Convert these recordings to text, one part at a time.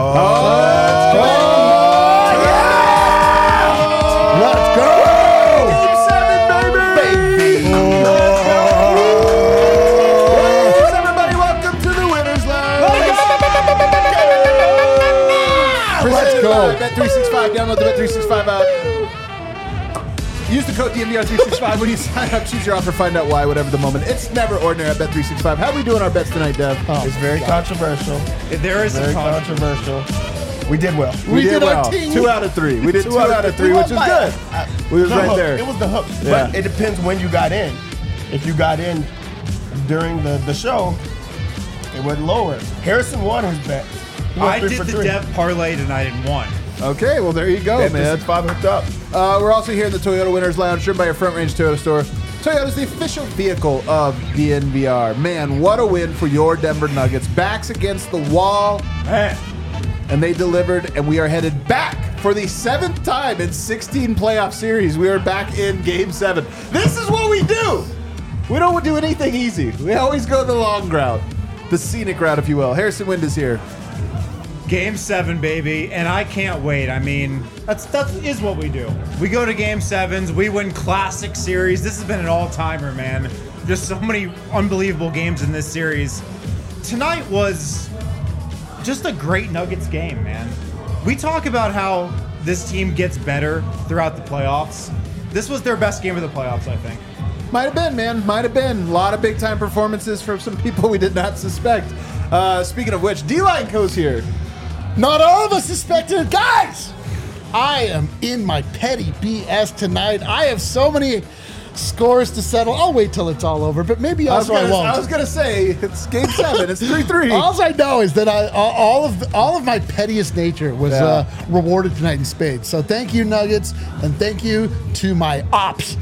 Let's go! Let's go! Game 7, baby! Let's go! Everybody, welcome to the Winners Lounge! Let's go! Bet365, download the Bet365 app. Use the code DMVR365 when you sign up. Choose your offer, find out why, whatever the moment. It's never ordinary at Bet365. How are we doing our bets tonight, Dev? It's very controversial. There is Very some controversial. We did well. We did our well. team. 2 out of 3. We did 2 out of 3, We which is won by- good. We was the right hook. there. It was the hook. Yeah. But it depends when you got in. If you got in during the show, it went lower. Harrison won his bet. He went I 3 did for the 3. Dev parlay tonight and won. Okay, well, there you go, man. Bet365 hooked up. We're also here in the Toyota Winners Lounge, driven by your Front Range Toyota store. Toyota is the official vehicle of DNVR. Man, what a win for your Denver Nuggets. Backs against the wall, and they delivered, and we are headed back for the 7th time in 16 playoff series. We are back in Game 7. This is what we do. We don't do anything easy. We always go the long route, the scenic route, if you will. Harrison Wind is here. Game 7, baby, and I can't wait. I mean, that is what we do. We go to Game 7s, we win classic series. This has been an all-timer, man. Just so many unbelievable games in this series. Tonight was just a great Nuggets game, man. We talk about how this team gets better throughout the playoffs. This was their best game of the playoffs, I think. Might have been, man. Might have been. A lot of big-time performances from some people we did not suspect. Speaking of which, D-Line goes here. Not all of us suspected it. Guys, I am in my petty BS tonight. I have so many scores to settle. I'll wait till it's all over, but maybe also I won't. I was gonna say it's Game 7. It's 3-3. All I know is that all of my pettiest nature was rewarded tonight in spades. So thank you, Nuggets, and thank you to my ops.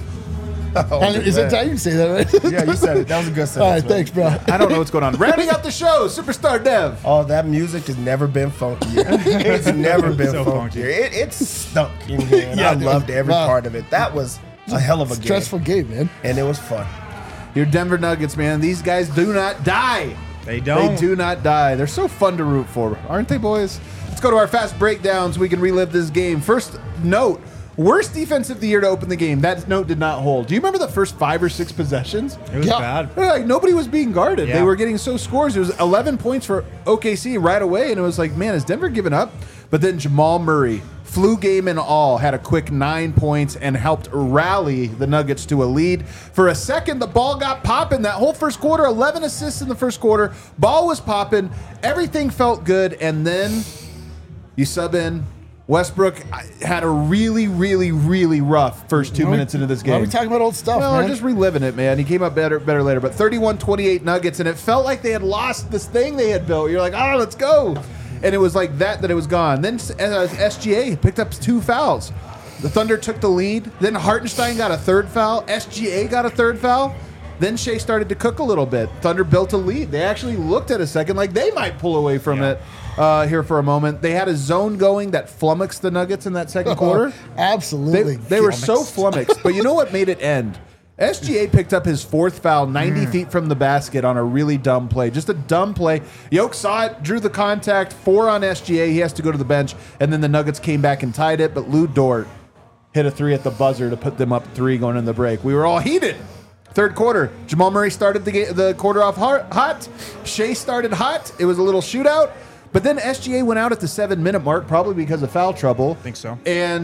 Is that how you say that, right? Yeah, you said it. That was a good sentence. All right, man. thanks, bro. I don't know what's going on. Rounding out the show, Superstar Dev. Oh, that music has never been funkier. It's never been So funkier. It stunk in here, and I dude. loved every Wow. part of it. That was a hell of a Stressful game, man. and it was fun. Your Denver Nuggets, man. These guys do not die. They don't. They do not die. They're so fun to root for, aren't they, boys? Let's go to our fast breakdowns. We can relive this game. First note. Worst defense of the year to open the game. That note did not hold. Do you remember the first 5 or 6 possessions? It was bad. Like nobody was being guarded. Yeah. They were getting so scores. It was 11 points for OKC right away, and it was like, man, has Denver given up? But then Jamal Murray, flu game and all, had a quick 9 points and helped rally the Nuggets to a lead. For a second, the ball got popping. That whole first quarter, 11 assists in the first quarter. Ball was popping. Everything felt good, and then you sub in. Westbrook had a really, really, really rough first 2 minutes into this game. Why are we talking about old stuff, Well, man? we're just reliving it, man. He came up better later. But 31-28 Nuggets, and it felt like they had lost this thing they had built. You're like, oh, let's go. And it was like that it was gone. Then SGA picked up 2 fouls. The Thunder took the lead. Then Hartenstein got a 3rd foul. SGA got a 3rd foul. Then Shea started to cook a little bit. Thunder built a lead. They actually looked at a second like they might pull away from it here for a moment. They had a zone going that flummoxed the Nuggets in that second quarter. Absolutely. They were so flummoxed. But you know what made it end? SGA picked up his 4th foul 90 feet from the basket on a really dumb play. Just a dumb play. Yoke saw it, drew the contact, 4 on SGA. He has to go to the bench. And then the Nuggets came back and tied it. But Lou Dort hit a 3 at the buzzer to put them up 3 going in the break. We were all heated. Third quarter, Jamal Murray started the quarter off hot. Shea started hot. It was a little shootout. But then SGA went out at the 7-minute mark, probably because of foul trouble. Think so. And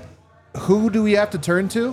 who do we have to turn to?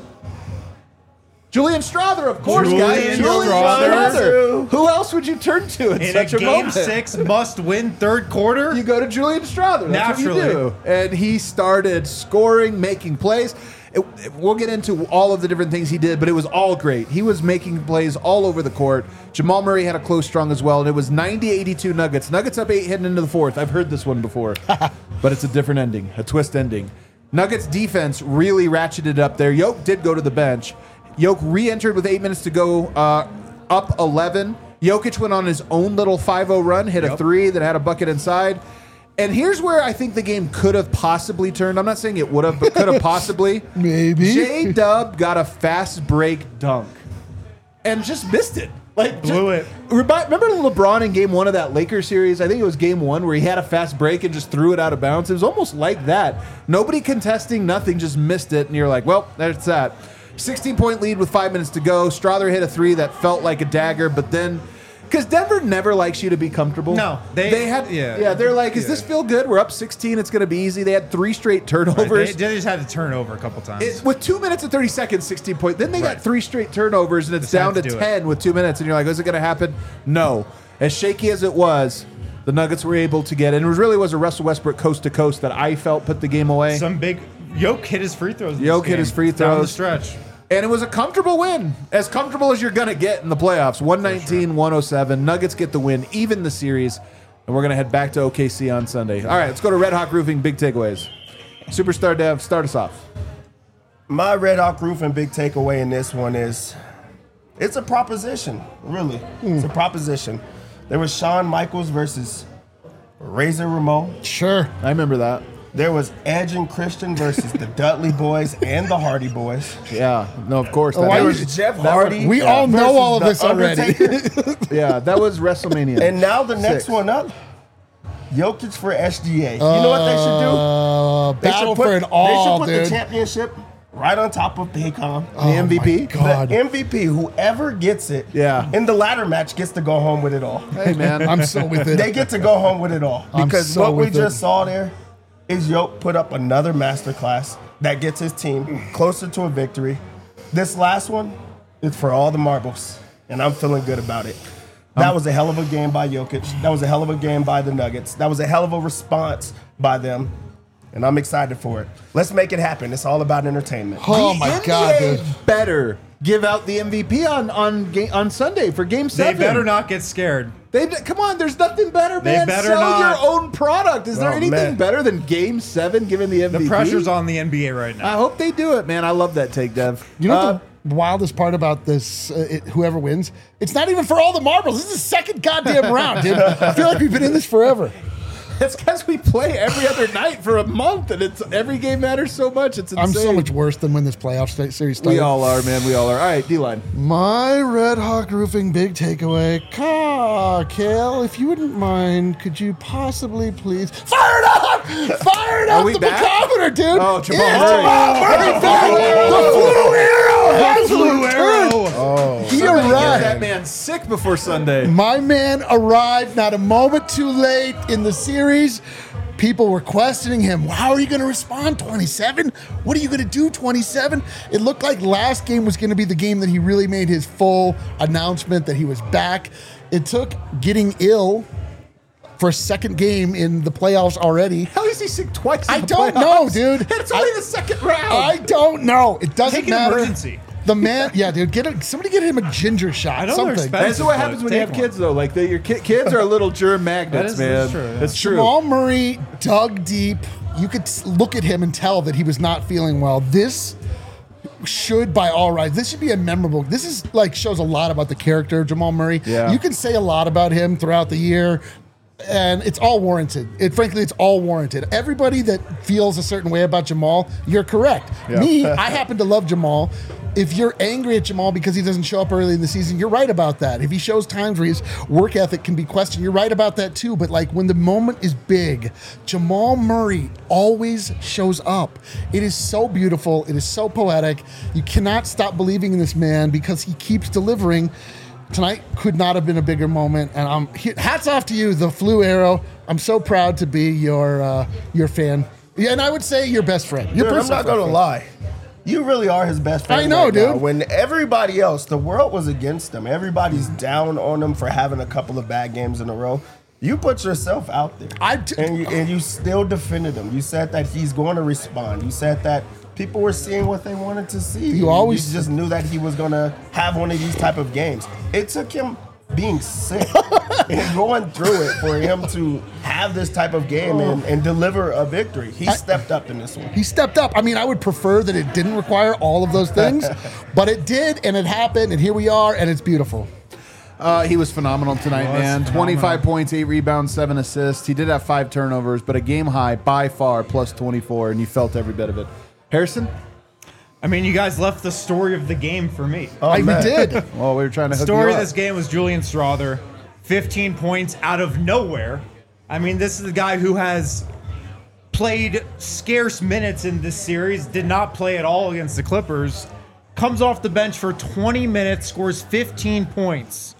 Julian Strawther, of course, guys. Julian Strawther. Who else would you turn to in In such a a Game moment? 6 must-win third quarter? You go to Julian Strawther. That's Naturally. what you do. And he started scoring, making plays. We'll get into all of the different things he did, but it was all great. He was making plays all over the court. Jamal Murray had a close strong as well, and it was 90-82 Nuggets. Nuggets up 8 heading into the 4th. I've heard this one before, but it's a different ending, a twist ending. Nuggets defense really ratcheted up there. Yoke did go to the bench. Yoke re-entered with 8 minutes to go, up 11. Jokic went on his own little 5-0 run, hit a 3 that had a bucket inside. And here's where I think the game could have possibly turned. I'm not saying it would have, but could have possibly. Maybe. J-Dub got a fast break dunk and just missed it. Like Blew it. Remember LeBron in Game 1 of that Lakers series? I think it was Game 1 where he had a fast break and just threw it out of bounds. It was almost like that. Nobody contesting, nothing, just missed it, and you're like, well, that's that. 16-point lead with 5 minutes to go. Strother hit a three that felt like a dagger, but then. Because Denver never likes you to be comfortable. No, they had. Yeah, they're like, "Does this feel good? We're up 16. It's going to be easy." They had 3 straight turnovers. Right. They just had to turn over a couple times. With 2 minutes and 30 seconds, 16 points. Then they got 3 straight turnovers, and it's down to 10 with 2 minutes. And you're like, "Is it going to happen?" No. As shaky as it was, the Nuggets were able to get it. And it really was a Russell Westbrook coast to coast that I felt put the game away. Some big Yoke hit his free throws. Yoke hit his free throws down the stretch. And it was a comfortable win. As comfortable as you're going to get in the playoffs. 119-107. Nuggets get the win, even the series. And we're going to head back to OKC on Sunday. All right, let's go to Red Hawk Roofing big takeaways. Superstar Dev, start us off. My Red Hawk Roofing big takeaway in this one is it's a proposition, really. It's a proposition. There was Shawn Michaels versus Razor Ramon. Sure. I remember that. There was Edge and Christian versus the Dudley Boys and the Hardy Boys. Yeah, no, of course. why There you- was Jeff Hardy. We all know versus all of The this already. Undertaker. Yeah, that was WrestleMania. And now the next 6. one up, Jokic for SGA. You know what they should do? They Battle should put, for an all, They should put dude. the championship right on top of Paycom. The MVP? God. The MVP, whoever gets it, Yeah. in the ladder match gets to go home with it all. Hey, man. I'm so with it. They get to go home with it all. I'm Because so what we with it. just saw there is Yoke put up another masterclass that gets his team closer to a victory. This last one is for all the marbles, and I'm feeling good about it. That was a hell of a game by Jokic. That was a hell of a game by the Nuggets. That was a hell of a response by them, and I'm excited for it. Let's make it happen. It's all about entertainment. Oh The my God, NBA dude. better give out the MVP on Sunday for Game 7. They better not get scared. Come on, there's nothing better, They man. better Sell not. your own product. Is there Oh, anything man. better than Game 7 giving the MVP? The pressure's on the NBA right now. I hope they do it, man. I love that take, Dev. You know the wildest part about this, whoever wins, it's not even for all the marbles. This is the second goddamn round, dude. I feel like we've been in this forever. It's because we play every other night for a month, and it's every game matters so much. It's insane. I'm so much worse than when this playoff series started. We all are, man. We all are. All right, D-line. My Red Hawk Roofing big takeaway. Kale, if you wouldn't mind, could you possibly please fire it up? Fire it Are up we the back? barometer, dude. Oh, Jamal It's Murray. Jamal Murray back. The Flu Arrow has returned. He Somebody get arrived. that man sick before Sunday. My man arrived not a moment too late in the series. People were questioning him. How are you going to respond? 27? What are you going to do? 27? It looked like last game was going to be the game that he really made his full announcement that he was back. It took getting ill for a second game in the playoffs already. How is he sick twice? I in the don't playoffs? know, dude. And it's only the second round. I don't know. It doesn't Take an matter. emergency. The man, yeah, dude, somebody get him a ginger shot. I know they're something. expensive. That's what happens when you have Take one. kids, though. Like your kids are little germ magnets, That is man. true, yeah. That's true. Jamal Murray dug deep. You could look at him and tell that he was not feeling well. This should, by all rights, this should be a memorable. This is like shows a lot about the character of Jamal Murray. Yeah. You can say a lot about him throughout the year, and it's all warranted. Frankly, it's all warranted. Everybody that feels a certain way about Jamal, you're correct. Yeah. Me, I happen to love Jamal. If you're angry at Jamal because he doesn't show up early in the season, you're right about that. If he shows times where his work ethic can be questioned, you're right about that too. But like when the moment is big, Jamal Murray always shows up. It is so beautiful. It is so poetic. You cannot stop believing in this man because he keeps delivering. Tonight could not have been a bigger moment. And hats off to you, the Flu Arrow. I'm so proud to be your fan. Yeah, and I would say your best friend. Your Dude, I'm personal not going to friend. lie. You really are his best friend. I know, right now. dude. When everybody else, the world was against him. Everybody's down on him for having a couple of bad games in a row. You put yourself out there. And you still defended him. You said that he's going to respond. You said that people were seeing what they wanted to see. You just knew that he was going to have one of these type of games. It took him being sick and going through it for him to have this type of game and deliver a victory. He stepped up in this one. He stepped up. I mean, I would prefer that it didn't require all of those things, but it did, and it happened, and here we are, and it's beautiful. He was phenomenal tonight, man. 25 points, 8 rebounds, 7 assists. He did have 5 turnovers, but a game high by far, plus 24, and you felt every bit of it. Harrison? I mean, you guys left the story of the game for me. We did. Well, we were trying to hook Story you of up. this game was Julian Strawther, 15 points out of nowhere. I mean, this is the guy who has played scarce minutes in this series, did not play at all against the Clippers, comes off the bench for 20 minutes, scores 15 points.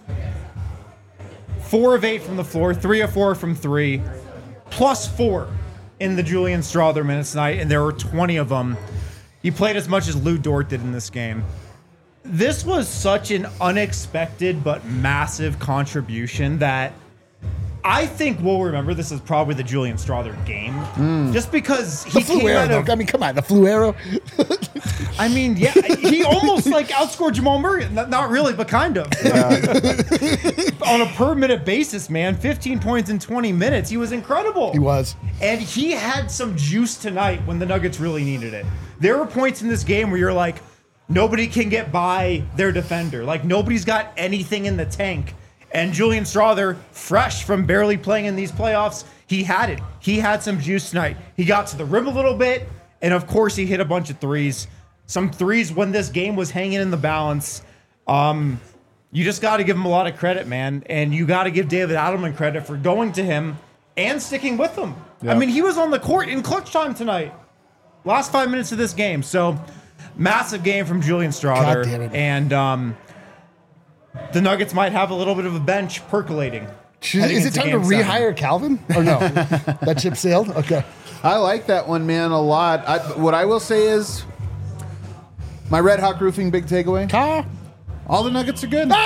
4 of 8 from the floor, 3 of 4 from 3, plus 4 in the Julian Strawther minutes tonight, and there were 20 of them. He played as much as Lou Dort did in this game. This was such an unexpected but massive contribution that I think we'll remember this as probably the Julian Strawther game. Just because he The flu came arrow, out of... though. I mean, come on, the flu arrow. I mean, yeah, he almost like outscored Jamal Murray. Not really, but kind of. On a per minute basis, man, 15 points in 20 minutes. He was incredible. He was. And he had some juice tonight when the Nuggets really needed it. There were points in this game where you're like, nobody can get by their defender. Like, nobody's got anything in the tank. And Julian Strawther, fresh from barely playing in these playoffs, he had it. He had some juice tonight. He got to the rim a little bit, and of course he hit a bunch of threes. Some threes when this game was hanging in the balance. You just got to give him a lot of credit, man. And you got to give David Adelman credit for going to him and sticking with him. Yeah. I mean, he was on the court in clutch time tonight. Last 5 minutes of this game. So, massive game from Julian Strawther. God damn it. And the Nuggets might have a little bit of a bench percolating. heading Is it into time to Game 7. rehire Calvin? Or no? That ship sailed? Okay. I like that one, man, a lot. What I will say is my Red Hawk Roofing big takeaway. All the Nuggets are good.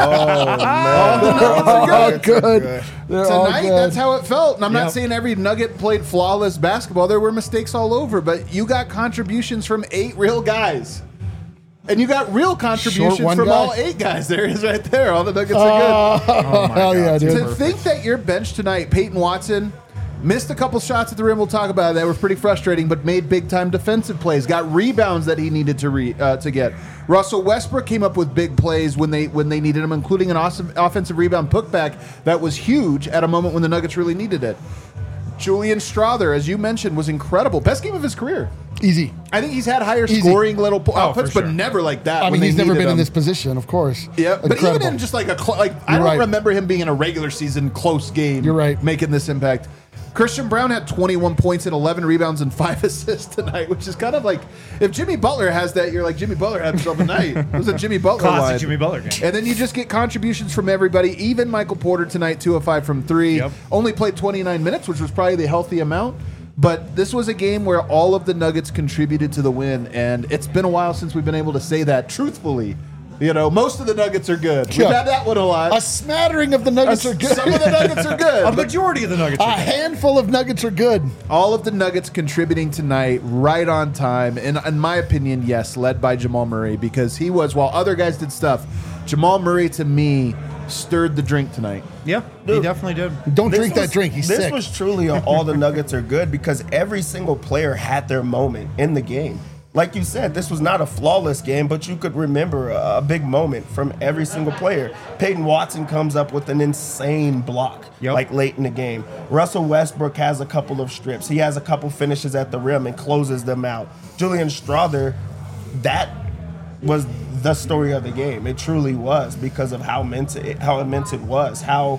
Oh, good. They're all Tonight, good. that's how it felt. And I'm Yep. not saying every Nugget played flawless basketball. There were mistakes all over, but you got contributions from 8 real guys. And you got real contributions one from guy. all 8 guys. There it is right there. All the Nuggets are good. Oh my Hell God, yeah, dude. dude. To think that your bench tonight, Peyton Watson, missed a couple shots at the rim. We'll talk about it. That were pretty frustrating, but made big-time defensive plays. Got rebounds that he needed to get. Russell Westbrook came up with big plays when they needed him, including an awesome offensive rebound putback that was huge at a moment when the Nuggets really needed it. Julian Strawther, as you mentioned, was incredible. Best game of his career. Easy. I think he's had higher Easy. scoring little outputs, for but sure. never like that. I when mean, they he's never needed been in him. this position, of course. Yeah, but Incredible. even in just like I don't right. remember him being in a regular season close game. You're right. Making this impact. Christian Brown had 21 points and 11 rebounds and 5 assists tonight, which is kind of like if Jimmy Butler has that, you're like Jimmy Butler had himself a night. It was a Jimmy Butler Classic line. Jimmy Butler game. And then you just get contributions from everybody. Even Michael Porter tonight, 2 of 5 from 3. Yep. Only played 29 minutes, which was probably the healthy amount. But this was a game where all of the Nuggets contributed to the win, and it's been a while since we've been able to say that truthfully. You know, most of the Nuggets are good. We've Yeah. had that one a lot. A smattering of the Nuggets are good. Some of the Nuggets are good. A but majority of the Nuggets A are good. handful of Nuggets are good. all of the Nuggets contributing tonight right on time. And in my opinion, yes, led by Jamal Murray, because he was, while other guys did stuff, Jamal Murray, to me, stirred the drink tonight. Yeah, he definitely did. Don't This drink was- that drink. He's this sick. was truly all the Nuggets are good because every single player had their moment in the game. Like you said, this was not a flawless game, but you could remember a big moment from every single player. Peyton Watson comes up with an insane block, Yep. like late in the game. Russell Westbrook has a couple of strips. He has a couple finishes at the rim and closes them out. Julian Strawther, that was the story of the game. It truly was because of how immense it was, how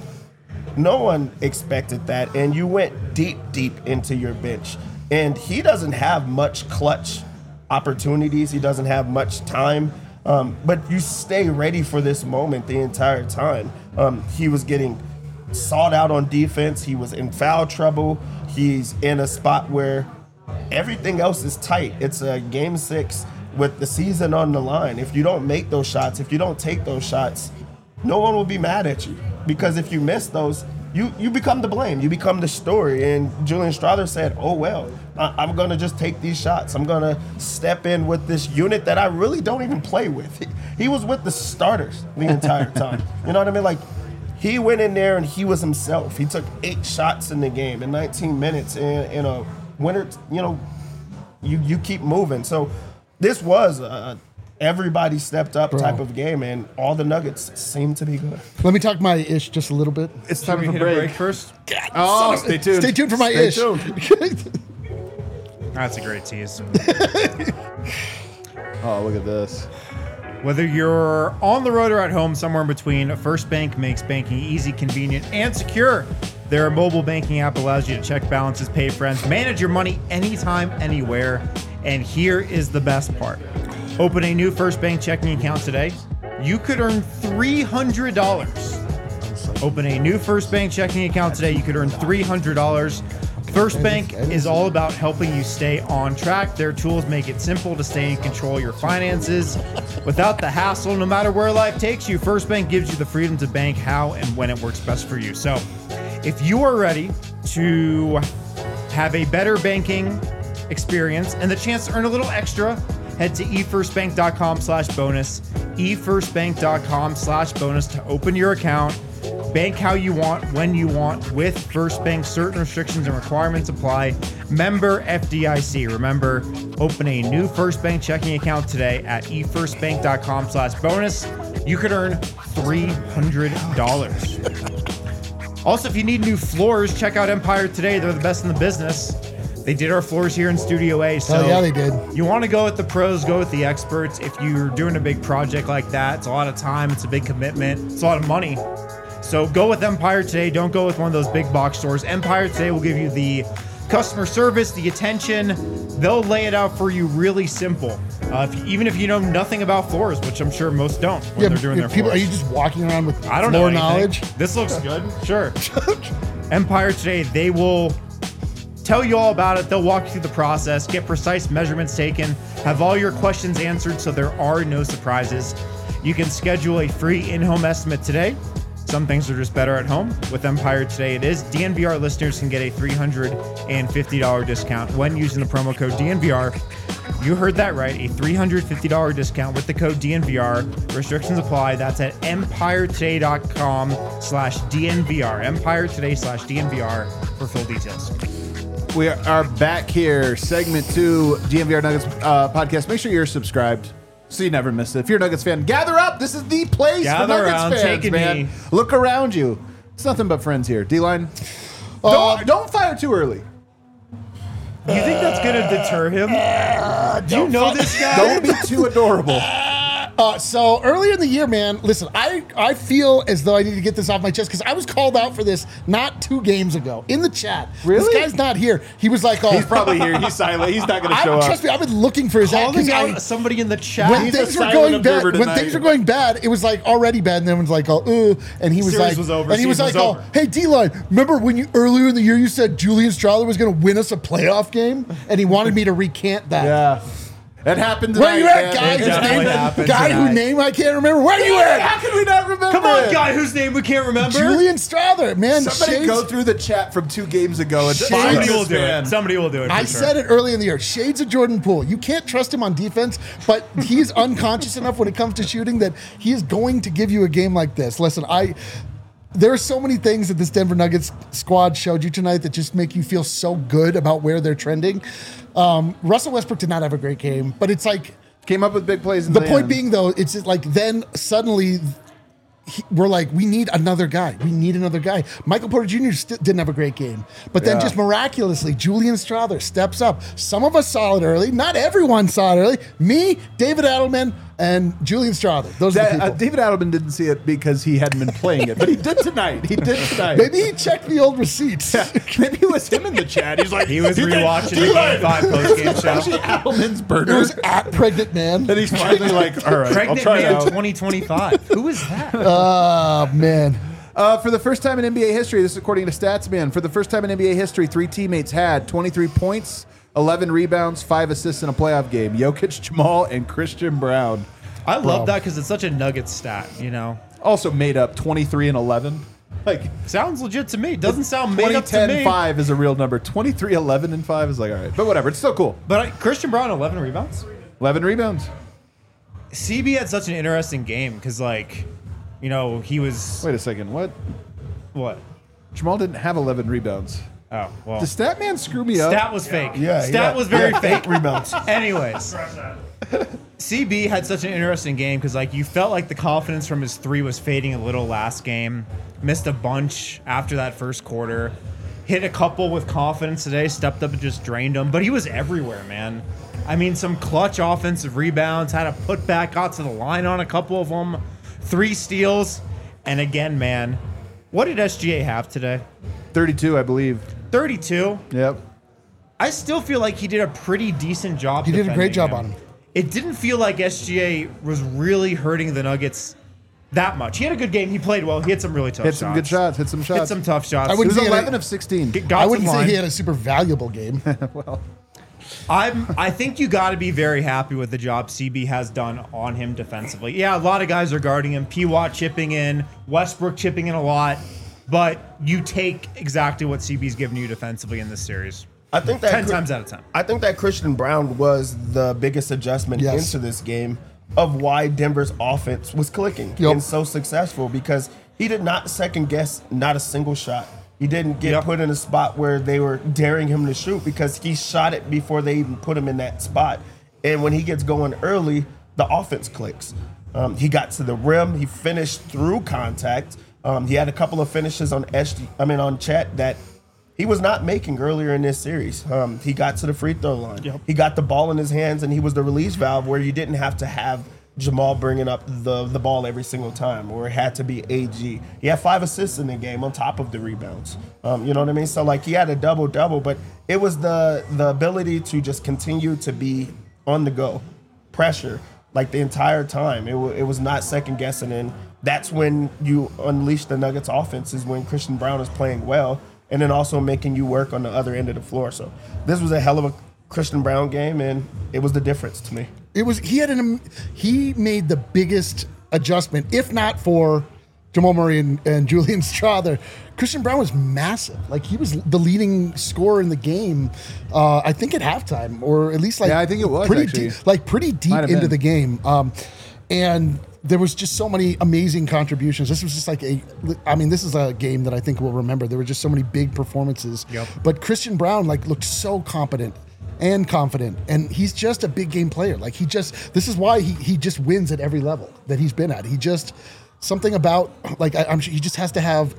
no one expected that, and you went deep into your bench. And he doesn't have much clutch opportunities. He doesn't have much time, but you stay ready for this moment the entire time. He was getting sought out on defense. He was in foul trouble. He's in a spot where everything else is tight. It's a game 6 with the season on the line. If you don't make those shots, if you don't take those shots, no one will be mad at you, because if you miss those, you become the blame. You become the story. And Julian Strawther said, oh, well, I'm going to just take these shots. I'm going to step in with this unit that I really don't even play with. He was with the starters the entire time. You know what I mean? Like, he went in there and he was himself. He took 8 shots in the game in 19 minutes in a winner. You know, you keep moving. So this was everybody stepped up type of game, and all the Nuggets seem to be good. Let me talk my ish just a little bit. It's Should time we for hit a break. break first? Oh, stay tuned. Stay tuned for my Stay ish. tuned. That's a great tease. Oh, look at this. Whether you're on the road or at home, somewhere in between, First Bank makes banking easy, convenient, and secure. Their mobile banking app allows you to check balances, pay friends, manage your money anytime, anywhere. And here is the best part. Open a new First Bank checking account today. You could earn $300. Open a new First Bank checking account today. You could earn $300. First Bank is all about helping you stay on track. Their tools make it simple to stay in control of your finances without the hassle. No matter where life takes you, First Bank gives you the freedom to bank how and when it works best for you. So if you are ready to have a better banking experience and the chance to earn a little extra, head to efirstbank.com/bonus, efirstbank.com/bonus to open your account. Bank how you want, when you want, with First Bank. Certain restrictions and requirements apply. Member FDIC. Remember, open a new First Bank checking account today at efirstbank.com/bonus. You could earn $300. Also, if you need new floors, check out Empire today. They're the best in the business. They did our floors here in Studio A. So yeah, they did. You want to go with the pros, go with the experts. If you're doing a big project like that, it's a lot of time, it's a big commitment, it's a lot of money. So go with Empire today. Don't go with one of those big box stores. Empire today will give you the customer service, the attention. They'll lay it out for you really simple. Even if you know nothing about floors, which I'm sure most don't when they're doing their people, floors. are you just walking around with I don't know floor anything. knowledge? This looks good. Sure. Empire today, they will tell you all about it. They'll walk you through the process, get precise measurements taken, have all your questions answered so there are no surprises. You can schedule a free in-home estimate today. Some things are just better at home. With Empire today, it is. DNVR listeners can get a $350 discount when using the promo code DNVR. You heard that right, a $350 discount with the code DNVR. Restrictions apply. That's at empiretoday.com/DNVR. empiretoday/DNVR for full details. We are back here, segment 2, DNVR Nuggets podcast. Make sure you're subscribed so you never miss it. If you're a Nuggets fan, gather up. This is the place Gather for Nuggets around, fans, take a man. knee. Look around you. It's nothing but friends here. D-line, don't fire too early. You think that's going to deter him? Do you know this guy? Don't be too adorable. So earlier in the year, man, listen, I feel as though I need to get this off my chest because I was called out for this not 2 games ago in the chat. Really? This guy's not here. He was like, oh. He's probably here. He's silent. He's not going to show up. Trust me, I've been looking for his Calling out somebody in the chat. when He's a things were silent going bad, observer when tonight. things were going bad, it was like already bad, and then it was like, oh, and he was Series like, was over, and he was season like, was oh, over. hey, D-line, remember when you earlier in the year you said Julian Strahler was going to win us a playoff game, and he wanted me to recant that. Yeah. That happened Where tonight, you at, man. guy? It Whose definitely name? happened Guy tonight. whose name I can't remember. Where you at? How can we not remember Come on, it? guy whose name we can't remember. Julian Strahler, man. Somebody Shades- go through the chat from 2 games ago and find Somebody will this do man. it. Somebody will do it. For I sure. said it early in the year. Shades of Jordan Poole. You can't trust him on defense, but he's unconscious enough when it comes to shooting that he is going to give you a game like this. Listen, there are so many things that this Denver Nuggets squad showed you tonight that just make you feel so good about where they're trending. Russell Westbrook did not have a great game, but it's like Came up with big plays in the the point end. being though, it's just like then suddenly we're like, we need another guy. We need another guy. Michael Porter Jr. Didn't have a great game. But then Yeah. just miraculously, Julian Strahler steps up. Some of us saw it early. Not everyone saw it early. Me, David Adelman, and Julian Strahler. Those are the people. David Adelman didn't see it because he hadn't been playing it, but he did tonight. He did tonight. Maybe he checked the old receipts. Maybe it was him in the chat. He's like, He was "You think rewatching the D-line Game 5 postgame is actually show. Adelman's It burner. was at Pregnant Man. And he's finally like, all right, I'll Pregnant try it Man out. 2025. Who is that? Oh, man. For the first time in NBA history, this is according to Statsman, for the first time in NBA history, 3 teammates had 23 points, 11 rebounds, 5 assists in a playoff game. Jokic, Jamal, and Christian Brown. I love that because it's such a Nuggets stat, you know? Also made up 23 and 11. Like, Sounds legit to me. Doesn't sound made up to 2010 me. 5 is a real number. 23, 11, and 5 is like, all right. But whatever, it's still cool. But Christian Brown, 11 rebounds? 11 rebounds. CB had such an interesting game because, like, you know, he was. Wait a second, what? What? Jamal didn't have 11 rebounds. Oh, well. Does Statman screw me up? Stat was fake. Yeah, Stat was very fake. Rebounds. Anyways, CB had such an interesting game because, like, you felt like the confidence from his 3 was fading a little last game. Missed a bunch after that first quarter. Hit a couple with confidence today. Stepped up and just drained them. But he was everywhere, man. I mean, some clutch offensive rebounds, had a putback, got to the line on a couple of them, 3 steals. And again, man, what did SGA have today? 32, I believe. 32? Yep. I still feel like he did a pretty decent job. He did a great job him. on him. It didn't feel like SGA was really hurting the Nuggets that much. He had a good game. He played well. He hit some really tough shots. Hit some good shots. Hit some shots. Hit some tough shots. I He wouldn't was say 11 of 16. I wouldn't say he had a super valuable game. I think you got to be very happy with the job CB has done on him defensively. Yeah, a lot of guys are guarding him. P-Watt chipping in, Westbrook chipping in a lot, but you take exactly what CB's given you defensively in this series. I think that 10 times out of 10. I think that Christian Brown was the biggest adjustment into this game of why Denver's offense was clicking and so successful, because he did not second guess not a single shot. He didn't get put in a spot where they were daring him to shoot, because he shot it before they even put him in that spot. And when he gets going early, the offense clicks. He got to the rim. He finished through contact. He had a couple of finishes on Chet that he was not making earlier in this series. He got to the free throw line. He got the ball in his hands, and he was the release valve where you didn't have to have Jamal bringing up the ball every single time, or it had to be AG. He had 5 assists in the game on top of the rebounds. You know what I mean? So, like, he had a double-double, but it was the ability to just continue to be on the go, pressure, like the entire time. It was not second-guessing, and that's when you unleash the Nuggets offense, is when Christian Brown is playing well, and then also making you work on the other end of the floor. So this was a hell of a Christian Brown game, and it was the difference to me. He made the biggest adjustment, if not for Jamal Murray and Julian Strawther. Christian Brown was massive. Like, he was the leading scorer in the game, I think at halftime, or at least I think it was pretty deep into the game. And there was just so many amazing contributions. This was just like this is a game that I think we'll remember. There were just so many big performances. But Christian Brown looked so competent and confident, and he's just a big game player. Like, this is why he just wins at every level that he's been at. He just, something about, I'm sure he just has to have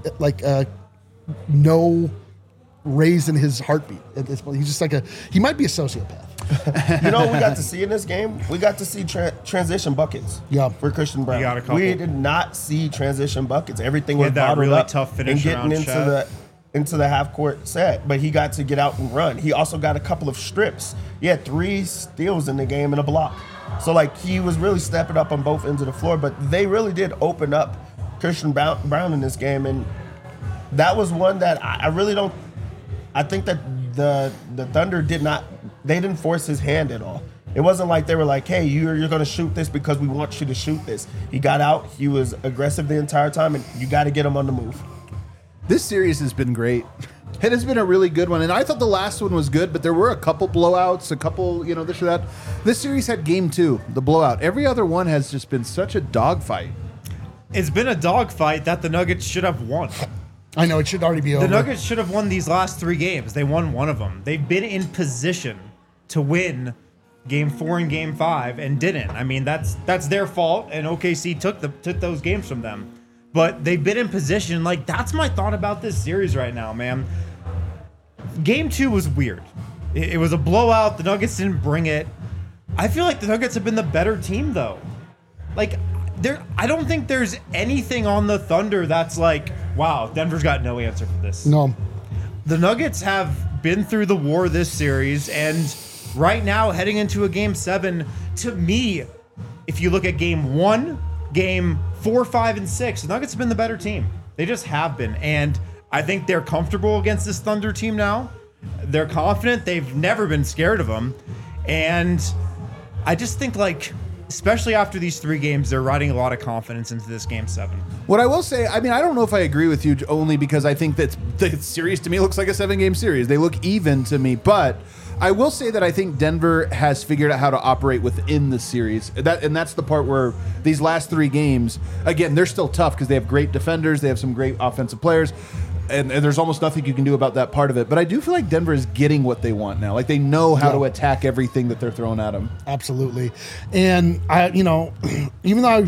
no raise in his heartbeat at this point. He's just he might be a sociopath. You know what we got to see in this game? We got to see transition buckets for Christian Brown. got a couple. We did not see transition buckets. Everything was that bottled really up tough finish and getting into the half court set, but he got to get out and run. He also got a couple of strips. He had 3 steals in the game and a block. So he was really stepping up on both ends of the floor, but they really did open up Christian Brown in this game, and that was one that I really don't. I think that the Thunder didn't force his hand at all. It wasn't like they were like, hey, you're going to shoot this because we want you to shoot this. He got out. He was aggressive the entire time, and you got to get him on the move. This series has been great. It has been a really good one, and I thought the last one was good, but there were a couple blowouts, a couple, this or that. This series had game 2, the blowout. Every other one has just been such a dogfight. It's been a dogfight that the Nuggets should have won. I know, it should already be over. The Nuggets should have won these last 3 games. They won one of them. They've been in position to win Game 4 and Game 5 and didn't. I mean, that's their fault, and OKC took those games from them. But they've been in position. That's my thought about this series right now, man. Game 2 was weird. It was a blowout. The Nuggets didn't bring it. I feel like the Nuggets have been the better team, though. I don't think there's anything on the Thunder that's wow, Denver's got no answer for this. No. The Nuggets have been through the war this series, and right now, heading into a Game 7, to me, if you look at Game 1, Game 4, 5, and 6, the Nuggets have been the better team. They just have been, and I think they're comfortable against this Thunder team now. They're confident. They've never been scared of them, and I just think especially after these 3 games, they're riding a lot of confidence into this Game 7. What I will say, I don't know if I agree with you, only because I think that the series to me looks like a 7-game series. They look even to me, but I will say that I think Denver has figured out how to operate within the series. And that's the part where these last 3 games, again, they're still tough because they have great defenders, they have some great offensive players, and there's almost nothing you can do about that part of it. But I do feel like Denver is getting what they want now. They know how to attack everything that they're throwing at them. Absolutely. And even though I was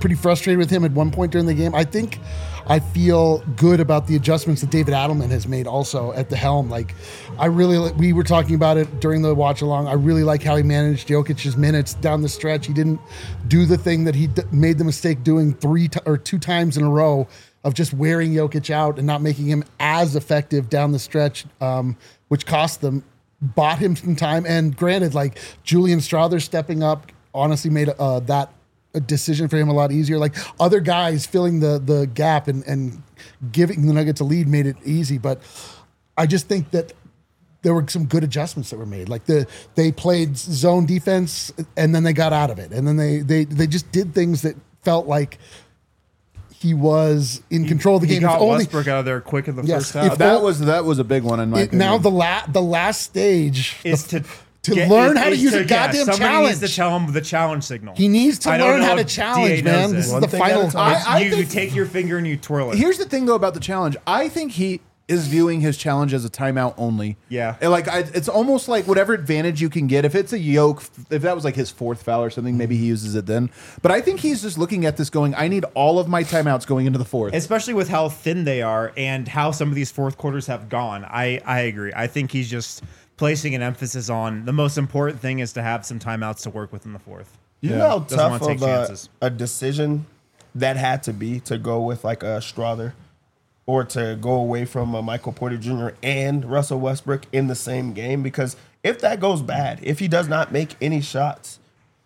pretty frustrated with him at one point during the game. I feel good about the adjustments that David Adelman has made also at the helm. Like, we were talking about it during the watch along. I really like how he managed Jokic's minutes down the stretch. He didn't do the thing that he made the mistake doing 2 times in a row of just wearing Jokic out and not making him as effective down the stretch, which cost them, bought him some time. And granted, like, Julian Strawther stepping up honestly made that a decision for him a lot easier. Like, other guys filling the gap and giving the Nuggets a lead made it easy. But I just think that there were some good adjustments that were made. Like, they played zone defense and then they got out of it. And then they just did things that felt like he was in control of the game. He got Westbrook out of there quick in the first half. That was a big one in my opinion. Now the last stage is to learn how to use a goddamn somebody challenge. Needs to tell him the challenge signal. He needs to learn how to challenge, man. This is the final time. You take your finger and you twirl it. Here's the thing, though, about the challenge. I think he is viewing his challenge as a timeout only. Yeah. And it's almost like whatever advantage you can get. If it's a yoke, if that was like his 4th foul or something, maybe he uses it then. But I think he's just looking at this going, I need all of my timeouts going into the 4th. Especially with how thin they are and how some of these 4th quarters have gone. I agree. I think he's just placing an emphasis on the most important thing is to have some timeouts to work with in the 4th. You know how tough of a decision that had to be to go with like a Strawther or to go away from a Michael Porter Jr. and Russell Westbrook in the same game? Because if that goes bad, if he does not make any shots,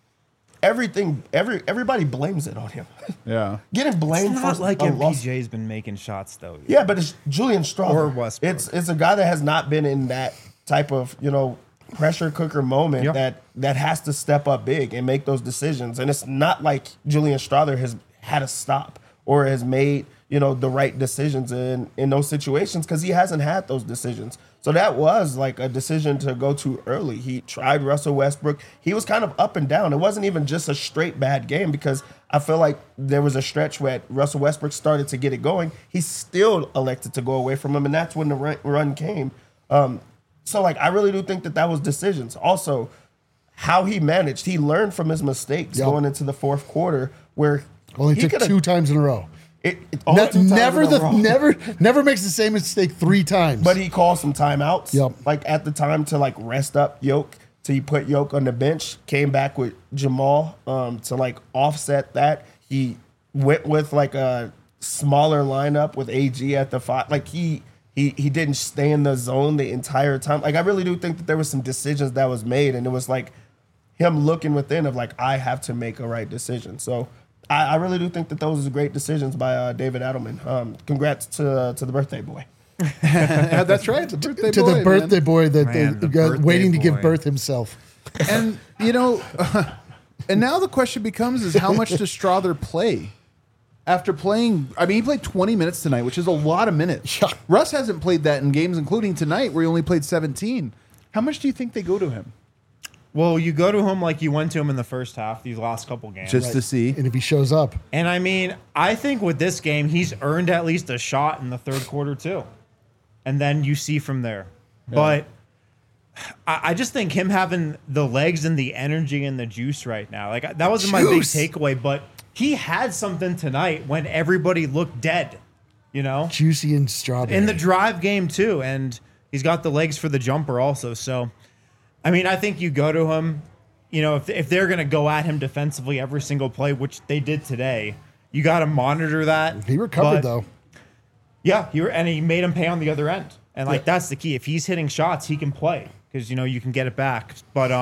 everybody blames it on him. Yeah. Getting blamed it's not for like MPJ's been making shots though. Yeah, but it's Julian Strawther or Westbrook. It's a guy that has not been in that type of, pressure cooker moment that has to step up big and make those decisions. And it's not like Julian Strawther has had a stop or has made, the right decisions in those situations because he hasn't had those decisions. So that was like a decision to go too early. He tried Russell Westbrook. He was kind of up and down. It wasn't even just a straight bad game because I feel like there was a stretch where Russell Westbrook started to get it going. He still elected to go away from him, and that's when the run came. So, I really do think that was decisions. Also, how he managed. He learned from his mistakes going into the 4th quarter where only took 2 times in a row. Never makes the same mistake 3 times. But he called some timeouts. Yep. At the time to rest up Yoke. So he put Yoke on the bench, came back with Jamal to offset that. He went with a smaller lineup with AG at the 5. He didn't stay in the zone the entire time. I really do think that there was some decisions that was made, and it was him looking within of I have to make a right decision. So I really do think that those are great decisions by David Adelman. Congrats to the birthday boy. That's right, the birthday boy. The birthday boy that waiting to give birth himself. And and now the question becomes: is how much does Strawther play? After playing, he played 20 minutes tonight, which is a lot of minutes. Yeah. Russ hasn't played that in games, including tonight, where he only played 17. How much do you think they go to him? Well, you go to him like you went to him in the first half, these last couple games. Just to see. And if he shows up. And I think with this game, he's earned at least a shot in the 3rd quarter, too. And then you see from there. Yeah. But I just think him having the legs and the energy and the juice right now, that wasn't my big takeaway, but he had something tonight when everybody looked dead, Juicy and strawberry. In the drive game, too. And he's got the legs for the jumper also. So, I think you go to him, if they're going to go at him defensively every single play, which they did today, you got to monitor that. He recovered, though. Yeah, he made him pay on the other end. And, that's the key. If he's hitting shots, he can play because, you can get it back. But,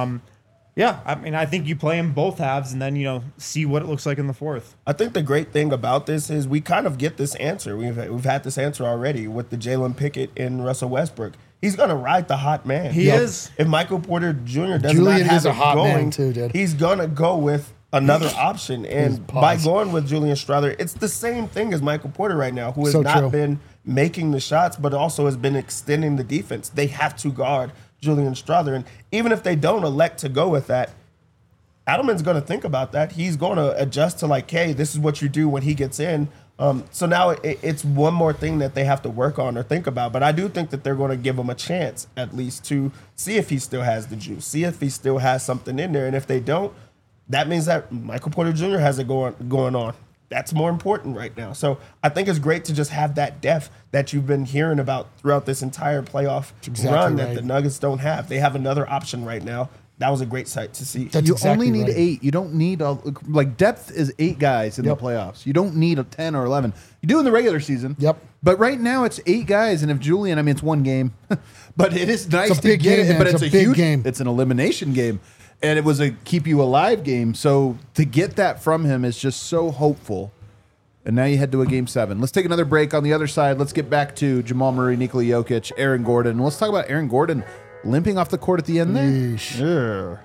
I think you play him both halves and then, see what it looks like in the 4th. I think the great thing about this is we kind of get this answer. We've had this answer already with the Jalen Pickett and Russell Westbrook. He's going to ride the hot man. He is. If Michael Porter Jr. does not have it going, too, he's going to go with another option. And by going with Julian Strawther, it's the same thing as Michael Porter right now, who has not been making the shots, but also has been extending the defense. They have to guard Julian Strawther. And even if they don't elect to go with that, Adelman's going to think about that. He's going to adjust to hey, this is what you do when he gets in. So now it's one more thing that they have to work on or think about. But I do think that they're going to give him a chance at least to see if he still has the juice, see if he still has something in there. And if they don't, that means that Michael Porter Jr. has it going on. That's more important right now. So I think it's great to just have that depth that you've been hearing about throughout this entire playoff run that the Nuggets don't have. They have another option right now. That was a great sight to see. You only need 8. You don't need depth is 8 guys in the playoffs. You don't need a 10 or 11. You do in the regular season. Yep. But right now it's 8 guys, and if Julian, I mean, it's one game, but it is nice It's a big to get game, it. man. But It's it's a a big huge game. It's an elimination game, and it was a keep you alive game. So to get that from him is just so hopeful. And now you head to a game 7. Let's take another break. On the other side, let's get back to Jamal Murray, Nikola Jokic, Aaron Gordon. And let's talk about Aaron Gordon limping off the court at the end there. Yeesh.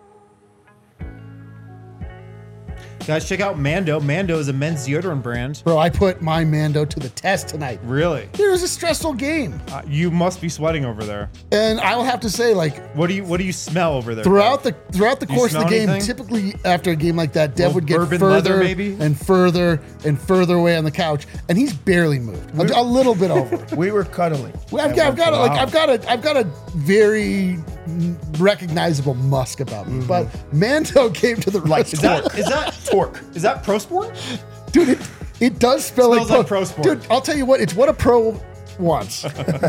Guys, check out Mando. Mando is a men's deodorant brand. Bro, I put my Mando to the test tonight. Really? It was a stressful game. You must be sweating over there. And I will have to say, like, What do you smell over there? throughout Dave? the course of the smell game, anything? typically after a game like that, Dev Little would get bourbon leather, further maybe? and further and further away on the couch, and he's barely moved. A little bit over. We were cuddling. I've got a very recognizable musk about me, but Mando came to the rescue. Is that torque? Is that Pro Sport? Dude, it does smell Smells like Pro Sport. Dude, I'll tell you what, it's what a pro wants.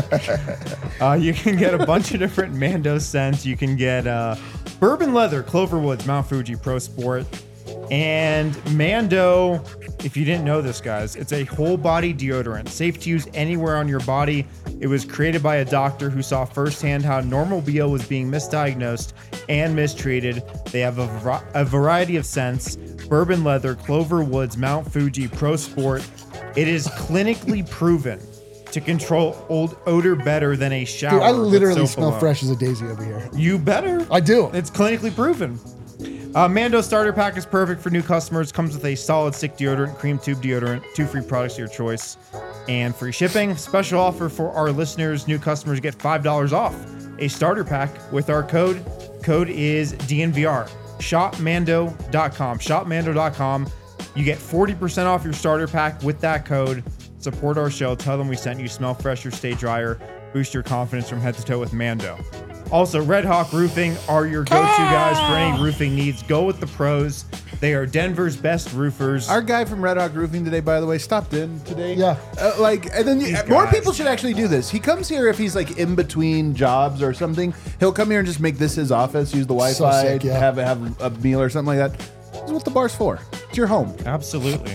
You can get a bunch of different Mando scents. You can get bourbon leather, Cloverwoods, Mount Fuji, Pro Sport, and Mando. If you didn't know this, guys, it's a whole body deodorant, safe to use anywhere on your body. It was created by a doctor who saw firsthand how normal BO was being misdiagnosed and mistreated. They have a variety of scents: bourbon leather, Cloverwoods, Mount Fuji, Pro Sport. It is clinically proven to control old odor better than a shower. Dude, I with literally soap smell alone. fresh as a daisy over here. You better. I do. It's clinically proven. Mando Starter Pack is perfect for new customers. Comes with a solid stick deodorant, cream tube deodorant, 2 free products of your choice, and free shipping. Special offer for our listeners. New customers get $5 off a starter pack with our code. Code is DNVR. Shopmando.com. Shopmando.com. You get 40% off your starter pack with that code. Support our show. Tell them we sent you. Smell fresher, stay drier. Boost your confidence from head to toe with Mando. Also, Red Hawk Roofing are your go-to guys for any roofing needs. Go with the pros. They are Denver's best roofers. Our guy from Red Hawk Roofing today, by the way, stopped in today. Yeah. And then more people should actually do this. He comes here if he's like in between jobs or something. He'll come here and just make this his office, use the Wi-Fi, sick, yeah. have a meal or something like that. This is what the bar's for. It's your home. Absolutely.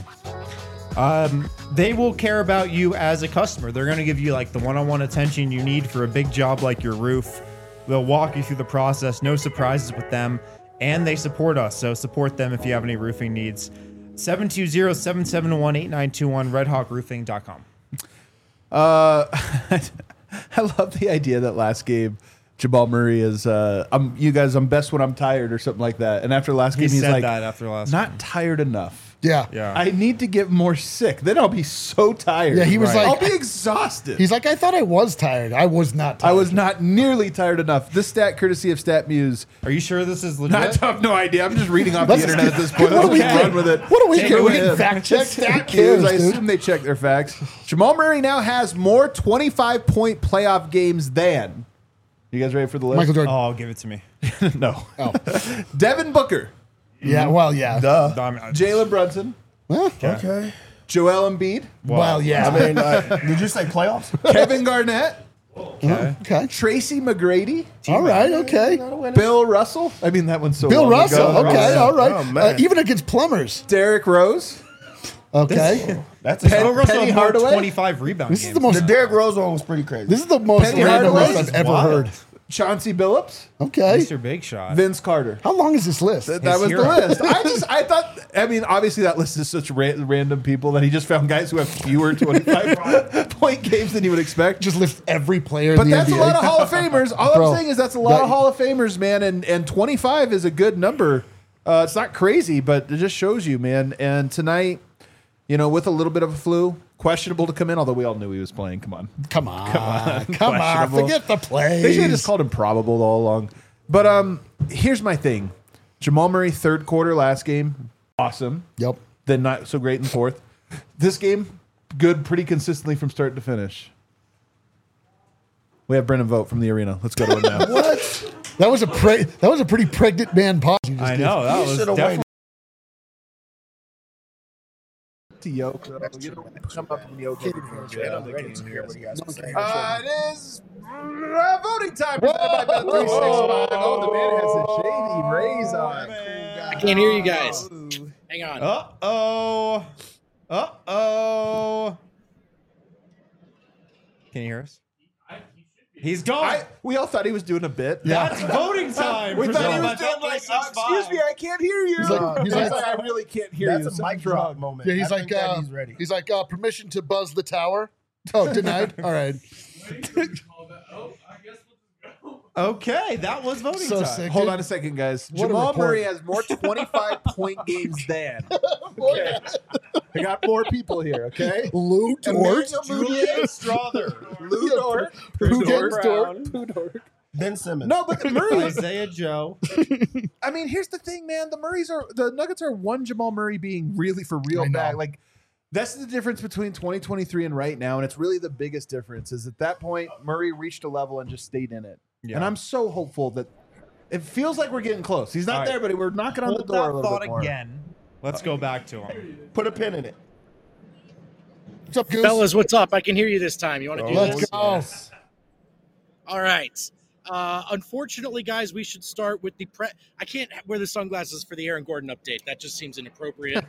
They will care about you as a customer. They're going to give you like the one-on-one attention you need for a big job like your roof. They'll walk you through the process. No surprises with them. And they support us. So support them if you have any roofing needs. 720-771-8921, redhawkroofing.com. I love the idea that last game Jamal Murray is I'm best when I'm tired or something like that. And after last game, he's said like, that after last not tired enough. Yeah. Yeah. I need to get more sick. Then I'll be so tired. Yeah, he was like- I'll be exhausted. He's like, I thought I was tired. I was not tired. I was not nearly tired enough. This stat, courtesy of StatMuse. Are you sure this is I legit? have no idea. I'm just reading off the Let's internet at this point. What do Let's we just do? run with it. What do we Take do? it We with can him. fact check StatMuse. cares, I dude. assume they check their facts. Jamal Murray now has more 25-point playoff games than. You guys ready for the list? Michael Jordan. Oh, give it to me. No. Oh. Devin Booker, Yeah, well, yeah. Jalen Brunson, Huh? Okay. Joel Embiid, Well, yeah. I mean, did you say playoffs? Kevin Garnett, okay. Tracy McGrady, All right, okay. Bill Russell. I mean, that one's so Bill long Russell, ago. okay, all right. Oh, man. Even against plumbers, Derrick Rose, okay. That's a Bill Russell Penny had more Hardaway? 25 rebound This games. is the most. The Derrick Rose one was pretty crazy. This is the most Penny random Hardaway list is I've ever wild. heard. Chauncey Billups, Okay. Mr. Big Shot. Vince Carter. How long is this list? That His was hero. the list. I thought, I mean, obviously that list is such random people that he just found guys who have fewer 25-point games than you would expect. Just lift every player But in the that's NBA. a lot of Hall of Famers. All Bro, I'm saying is that's a lot that- of Hall of Famers, man. And 25 is a good number. It's not crazy, but it just shows you, man. And tonight, you know, with a little bit of a flu, questionable to come in, although we all knew he was playing. Come on. Come on. Questionable. Forget the plays. They should have just called him probable all along. But here's my thing. Jamal Murray, third quarter last game, awesome. Yep. Then not so great in fourth. This game, good pretty consistently from start to finish. We have Brennan Vogt from the arena. Let's go to it now. What? That was a pretty pregnant man pause. You just I did. know. That You was should've definitely to Yoko. You know, come up with Yoko. I'm ready to hear what he has to say. It is voting time presented by Bet365. Oh, the man has a shady raise on. I can't hear you guys. Hang on. Uh-oh. Can you hear us? He's gone. We all thought he was doing a bit. That's voting time. We thought he was doing like, excuse me, I can't hear you. He's like, I really can't hear you. That's a mic drop moment. Yeah, he's I like, think that he's ready. He's like, permission to buzz the tower. Oh, denied. All right. Okay, that was voting So time. sick. Hold on a second, guys. What a Jamal report. Murray has more 25-point games than. Okay. I got more people here, okay? Lou Dort. Julian Strother. Lou Dort. Brown. Ben Simmons. No, but the Murray. Isaiah Joe. I mean, here's the thing, man. The Nuggets are one Jamal Murray being really for real I know. bad. Like, that's the difference between 2023 and right now, and it's really the biggest difference. Is at that point Murray reached a level and just stayed in it. Yeah. And I'm so hopeful that it feels like we're getting close. He's not All right. there, but we're knocking on the Hold door a that little thought bit more. again. Let's go back to him. Put a pin in it. What's up, Goose? Fellas, what's up? I can hear you this time. You want to do Let's this? go. All right. Unfortunately, guys, we should start with the I can't wear the sunglasses for the Aaron Gordon update. That just seems inappropriate.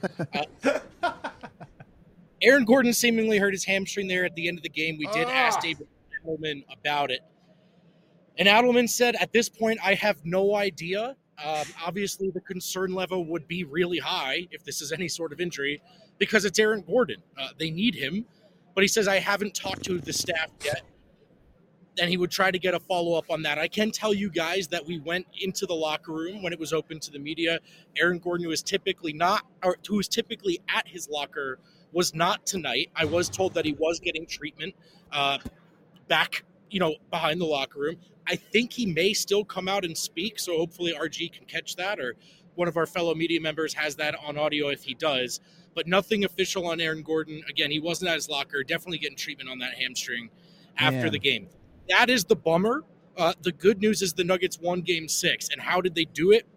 Aaron Gordon seemingly hurt his hamstring there at the end of the game. We did ask David Adelman about it. And Adelman said, at this point, I have no idea. Obviously, the concern level would be really high if this is any sort of injury because it's Aaron Gordon. They need him. But he says, I haven't talked to the staff yet. And he would try to get a follow-up on that. I can tell you guys that we went into the locker room when it was open to the media. Aaron Gordon, who is typically at his locker, was not tonight. I was told that he was getting treatment back, behind the locker room. I think he may still come out and speak, so hopefully RG can catch that, or one of our fellow media members has that on audio if he does. But nothing official on Aaron Gordon. Again, he wasn't at his locker, definitely getting treatment on that hamstring after the game. That is the bummer. The good news is the Nuggets won Game 6. And how did they do it?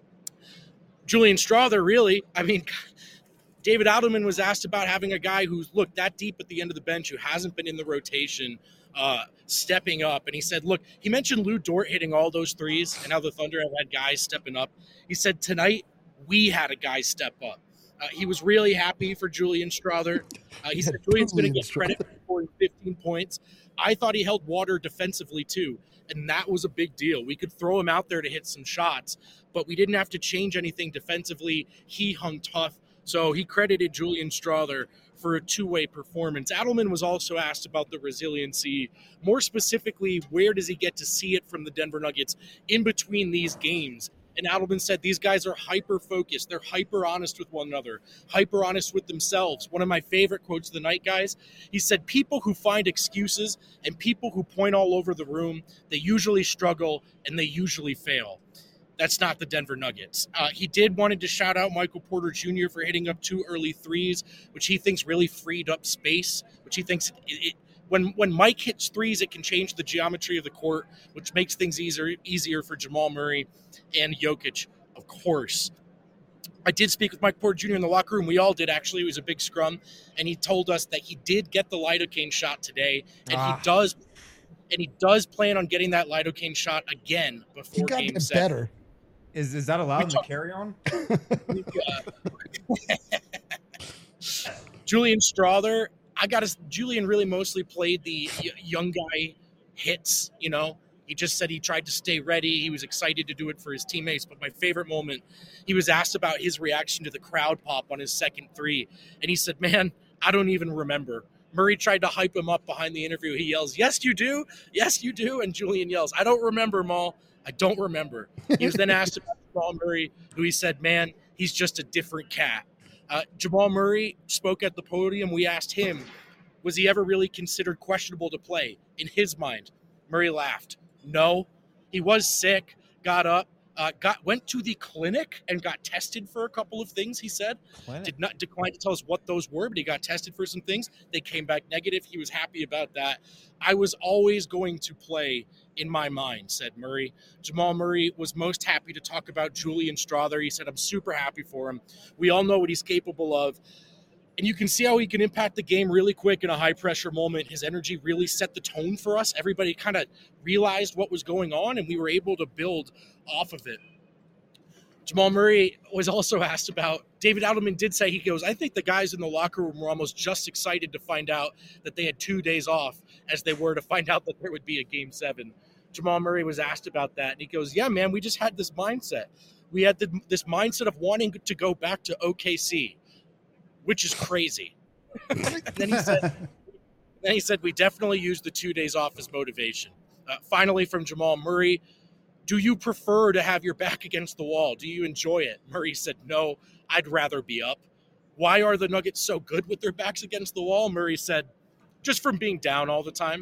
Julian Strother, really. I mean, David Adelman was asked about having a guy who's looked that deep at the end of the bench, who hasn't been in the rotation, stepping up. And he said, look, he mentioned Lou Dort hitting all those threes and how the Thunder have had guys stepping up. He said, tonight, we had a guy step up. He was really happy for Julian Strother. He said Julian's going to get credit for scoring 15 points. I thought he held water defensively too, and that was a big deal. We could throw him out there to hit some shots, but we didn't have to change anything defensively. He hung tough, so he credited Julian Strother for a two-way performance. Adelman was also asked about the resiliency. More specifically, where does he get to see it from the Denver Nuggets in between these games? And Adelman said these guys are hyper-focused. They're hyper-honest with one another, hyper-honest with themselves. One of my favorite quotes of the night, guys, he said, people who find excuses and people who point all over the room, they usually struggle and they usually fail. That's not the Denver Nuggets. He wanted to shout out Michael Porter Jr. for hitting up 2 early threes, which he thinks really freed up space, which he thinks when Mike hits threes, it can change the geometry of the court, which makes things easier for Jamal Murray and Jokic, of course. I did speak with Mike Porter Jr. in the locker room. We all did, actually. It was a big scrum, and he told us that he did get the lidocaine shot today, and he does plan on getting that lidocaine shot again before Game 7. Better. Is that allowed in the carry-on? Julian Strother, Julian really mostly played the young guy hits, He just said he tried to stay ready. He was excited to do it for his teammates. But my favorite moment, he was asked about his reaction to the crowd pop on his second three. And he said, man, I don't even remember. Murray tried to hype him up behind the interview. He yells, yes, you do. Yes, you do. And Julian yells, I don't remember, Maul. I don't remember. He was then asked about Jamal Murray, who he said, man, he's just a different cat. Jamal Murray spoke at the podium. We asked him, was he ever really considered questionable to play? In his mind, Murray laughed. No, he was sick, got up, went to the clinic and got tested for a couple of things, he said. Did not decline to tell us what those were, but he got tested for some things. They came back negative. He was happy about that. I was always going to play in my mind, said Murray. Jamal Murray was most happy to talk about Julian Strother. He said, I'm super happy for him. We all know what he's capable of. And you can see how he can impact the game really quick in a high-pressure moment. His energy really set the tone for us. Everybody kind of realized what was going on, and we were able to build off of it. Jamal Murray was also asked about, David Adelman did say, he goes, I think the guys in the locker room were almost just excited to find out that they had 2 days off as they were to find out that there would be a Game 7. Jamal Murray was asked about that, and he goes, yeah, man, we just had this mindset. We had this mindset of wanting to go back to OKC, which is crazy. Then he said, we definitely used the 2 days off as motivation. Finally, from Jamal Murray, do you prefer to have your back against the wall? Do you enjoy it? Murray said, no, I'd rather be up. Why are the Nuggets so good with their backs against the wall? Murray said, just from being down all the time.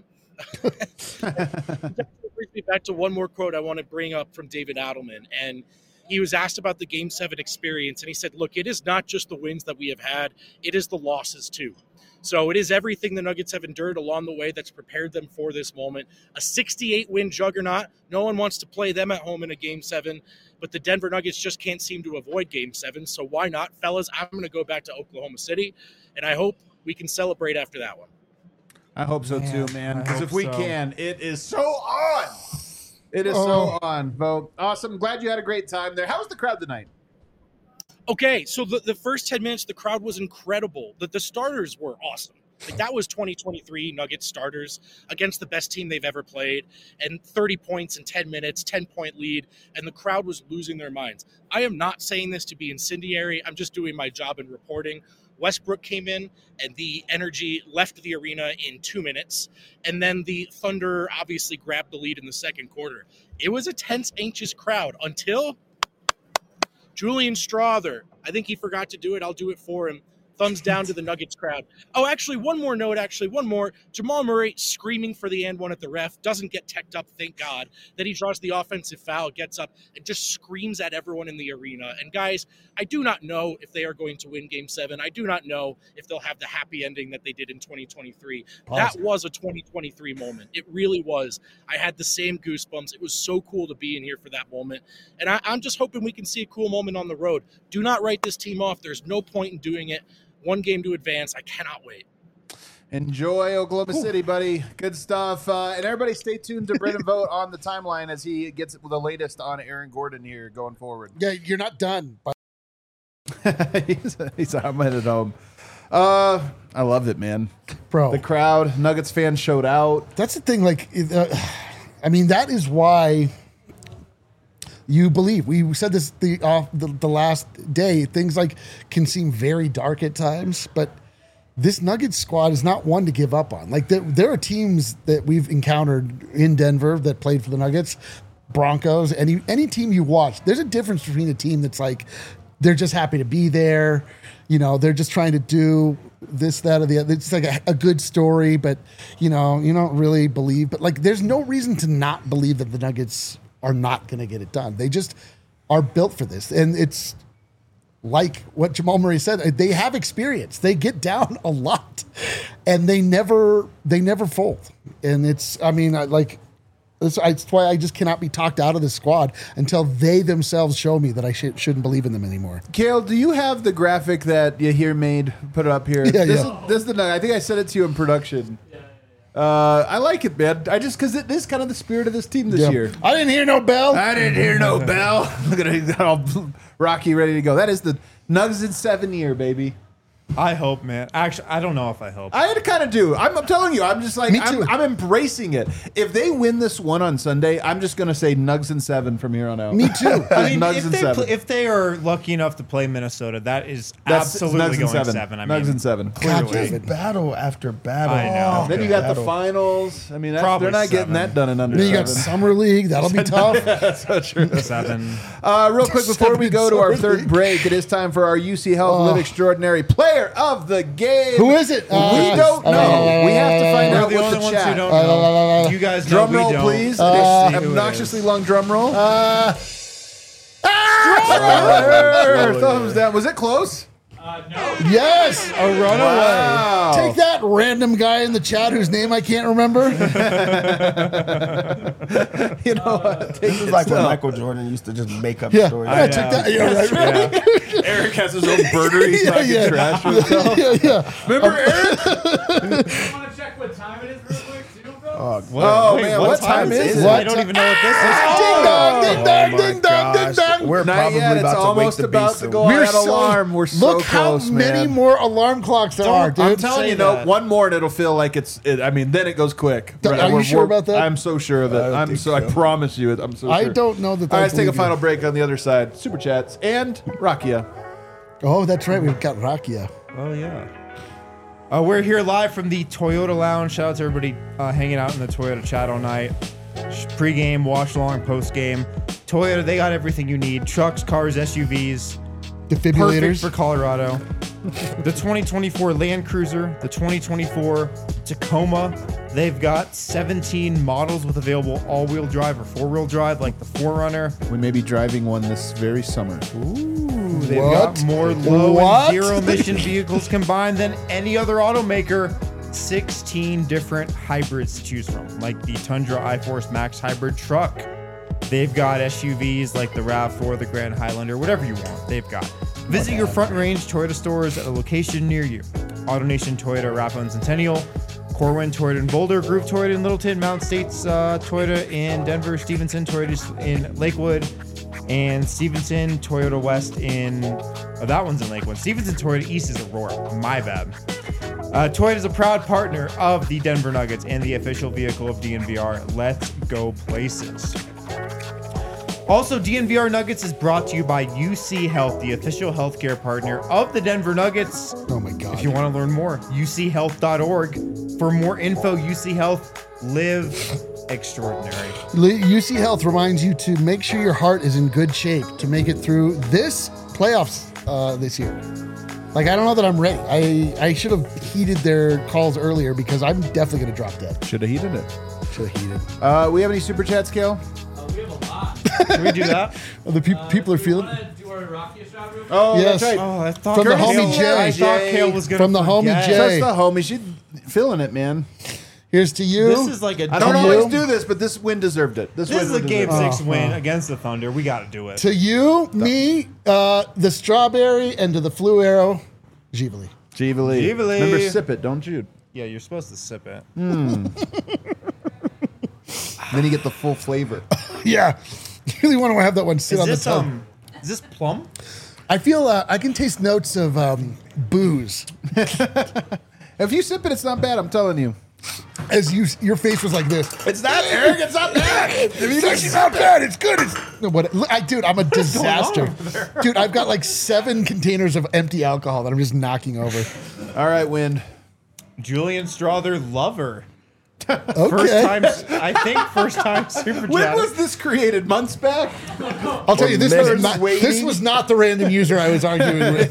That brings me back to one more quote I want to bring up from David Adelman. And he was asked about the Game 7 experience, and he said, look, it is not just the wins that we have had, it is the losses too. So it is everything the Nuggets have endured along the way that's prepared them for this moment. A 68-win juggernaut. No one wants to play them at home in a Game 7, but the Denver Nuggets just can't seem to avoid Game 7. So why not, fellas? I'm going to go back to Oklahoma City, and I hope we can celebrate after that one. I hope so too, man. Because if we can, it is so on. It is so on, Vogt. Awesome. Glad you had a great time there. How was the crowd tonight? Okay, so the first 10 minutes, the crowd was incredible. The starters were awesome. Like, that was 2023 Nuggets starters against the best team they've ever played, and 30 points in 10 minutes, 10-point lead, and the crowd was losing their minds. I am not saying this to be incendiary. I'm just doing my job in reporting. Westbrook came in, and the energy left the arena in 2 minutes, and then the Thunder obviously grabbed the lead in the second quarter. It was a tense, anxious crowd until Julian Strawther. I think he forgot to do it. I'll do it for him. Thumbs down to the Nuggets crowd. Oh, actually, one more. Jamal Murray screaming for the and one at the ref, doesn't get teched up, thank God. Then he draws the offensive foul, gets up, and just screams at everyone in the arena. And guys, I do not know if they are going to win Game 7. I do not know if they'll have the happy ending that they did in 2023. That was a 2023 moment. It really was. I had the same goosebumps. It was so cool to be in here for that moment. And I'm just hoping we can see a cool moment on the road. Do not write this team off. There's no point in doing it. One game to advance. I cannot wait. Enjoy Oklahoma City, buddy. Good stuff. And everybody stay tuned to Brendan Vogt on the timeline as he gets the latest on Aaron Gordon here going forward. Yeah, you're not done. But he's I'm at home. I loved it, man. Bro. The crowd, Nuggets fans showed out. That's the thing. Like, I mean, that is why you believe. We said this the last day. Things like can seem very dark at times, but this Nuggets squad is not one to give up on. Like, there are teams that we've encountered in Denver that played for the Nuggets, Broncos, any team you watch. There's a difference between a team that's like they're just happy to be there. You know, they're just trying to do this, that, or the other. It's like a good story, but you know, you don't really believe. But like, there's no reason to not believe that the Nuggets are not going to get it done. They just are built for this. And it's like what Jamal Murray said, they have experience. They get down a lot and they never fold. And it's, I mean, it's why I just cannot be talked out of this squad until they themselves show me that I shouldn't believe in them anymore. Kale, do you have the graphic that Yahir made? Put it up here. Yeah, this is the, I think I sent it to you in production. I like it, man. Because it is kind of the spirit of this team this year. I didn't hear no bell. Look at it, all Rocky ready to go. That is the Nuggets in 7 year, baby. I hope, man. Actually, I don't know if I hope. I kind of do. I'm telling you, I'm just like, Me too. I'm embracing it. If they win this one on Sunday, I'm just going to say Nugs in 7 from here on out. Me too. I mean, Nugs in 7. if they are lucky enough to play Minnesota, that's absolutely Nugs in going 7. 7. I Nugs mean, in 7. God, Clearly. just battle after battle. I know. after Then you got the battle. finals. I mean, Probably they're not getting 7. that done in under Then you got 7. Summer League. That'll be tough. That's so true. 7. Real quick, before we go to our third League. break, it is time for our UC Health Live Extraordinary Player of the Game. Who is it? We don't know. We have to find We're out the with only the ones chat. who don't know. You guys know Drum we roll, don't. please. Let's see who it Obnoxiously is. long drum roll. Ah! Thumbs down. Was it close? Yes. A runaway. Wow. Take that, random guy in the chat whose name I can't remember. You know what? This is like when Michael Jordan used to just make up Yeah, stories. I took that. Yeah, right. Eric has his own birder. He's talking trash with himself. Yeah. Remember Eric? I want to check what time it is real quick, too, bro. Oh, man, what time is it? I don't even know what this is. Ding dong, ding dong, my ding dong, ding gosh. dong. We're Not probably yet. It's about to wake almost the about beast to soon. go out alarm. We're so look close, how many man. more alarm clocks there are, dude. I'm telling say you, no, that. one more and it'll feel like I mean, then it goes quick. Are you sure about that? I'm so sure of it. I don't think I so. promise you, I'm so sure. I don't know that. All right, I let's take a believe you. final break on the other side. Super chats and Rakia. Oh, that's right. We've got Rakia. Oh, yeah. We're here live from the Toyota Lounge. Shout out to everybody hanging out in the Toyota chat all night. Pre-game, watch-along, post-game. Toyota, they got everything you need. Trucks, cars, SUVs. Perfect Defibrillators. for Colorado. The 2024 Land Cruiser, the 2024 Tacoma. They've got 17 models with available all-wheel drive or four-wheel drive, like the 4Runner. We may be driving one this very summer. Ooh, they've What? got more low What? and zero-emission vehicles combined than any other automaker. 16 different hybrids to choose from, like the Tundra iForce Max hybrid truck. They've got SUVs like the RAV4, the Grand Highlander, whatever you want, they've got. Visit your Front Range Toyota stores at a location near you. AutoNation Toyota, Rathbone Centennial, Corwin Toyota in Boulder, Groove Toyota in Littleton, Mountain States Toyota in Denver, Stevenson Toyota in Lakewood, and Stevenson Toyota West in, that one's in Lakewood. Stevenson Toyota East is Aurora, my bad. Toyota is a proud partner of the Denver Nuggets and the official vehicle of DNVR. Let's go places. Also, DNVR Nuggets is brought to you by UC Health, the official healthcare partner of the Denver Nuggets. Oh my God. If you want to learn more, uchealth.org. For more info, UC Health, live extraordinary. UC Health reminds you to make sure your heart is in good shape to make it through this playoffs this year. Like, I don't know that I'm ready. I should have heeded their calls earlier because I'm definitely going to drop dead. Should have heated it. Should have heeded. We have any super chats, Kale? We have a lot. Can we do that? The people are feeling. Want to do our Rakia shot real quick? Oh, Yes. that's right. Oh, I thought From the Kale- homie Jay. I thought Kale was going to From the homie Jay. That's the homie. She's feeling it, man. Here's to you. This is like a I don't To always you. do this, but this win deserved it. This is a game deserved it. 6 win against the Thunder. We got to do it. to you, me, the strawberry, and to the flu arrow, Ghibli. Givali. Givali. Remember, sip it, don't you? Yeah, you're supposed to sip it. Then you get the full flavor. Yeah. You really want to have that one sit Is on the this tongue. is this plum? I feel I can taste notes of booze. If you sip it, it's not bad. I'm telling you. As your face was like this. It's not, Eric. It's not bad. It's actually not bad. It's good. It's no, what, dude, I'm a disaster. Dude, I've got like 7 containers of empty alcohol that I'm just knocking over. All right, Wind. Julian Strother lover. Okay. First time super When chat. was this created? Months back? I'll tell you, this minutes this was not the random user I was arguing with.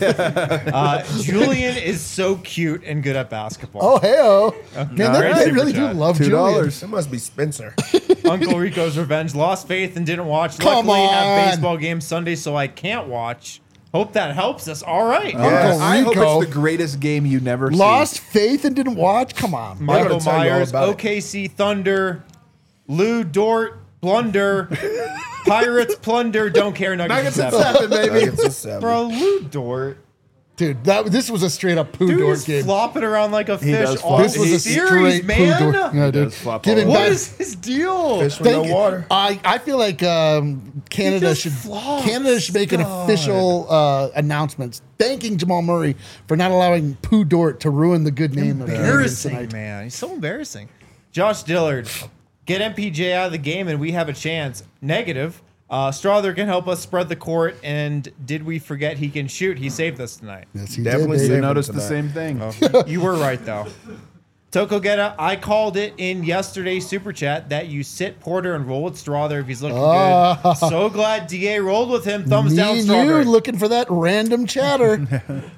Julian is so cute and good at basketball. Oh, hey-oh. Man, All right, they super really do chat. love $2. Julian. It must be Spencer. Uncle Rico's Revenge. Lost faith and didn't watch. Come Luckily, on. have baseball games Sunday, so I can't watch. Hope that helps us. All right. Uncle I hope Rico. it's the greatest game you never Lost faith and didn't watch? Come on. Michael gotta tell you all Myers, about it. OKC Thunder, Lou Dort, Blunder, Pirates Plunder, don't care, Nuggets, Nuggets at 7. 7, baby. Nuggets is 7. Bro, Lou Dort. Dude, this was a straight up poo Dude Dort is game. flopping around like a fish does all flop. This was a series, straight man. poo Dort. Yeah, dude. does flop Give all him over. What back. is his deal? Fish with no Thank you. water. I feel like Canada just should flops. Canada should make an official announcement thanking Jamal Murray for not allowing Pooh Dort to ruin the good name of the Canadians Embarrassing, tonight. man. He's so embarrassing. Josh Dillard, get MPJ out of the game and we have a chance. Negative. Strother can help us spread the court, and did we forget he can shoot? He saved us tonight. Yes, he Definitely did. saved baby. him. Noticed the tonight. same thing. You were right, though. Toko Geta, I called it in yesterday's super chat that you sit Porter and roll with Strother if he's looking good. So glad DA rolled with him. Thumbs Me down, and Strawberry. you looking for that random chatter.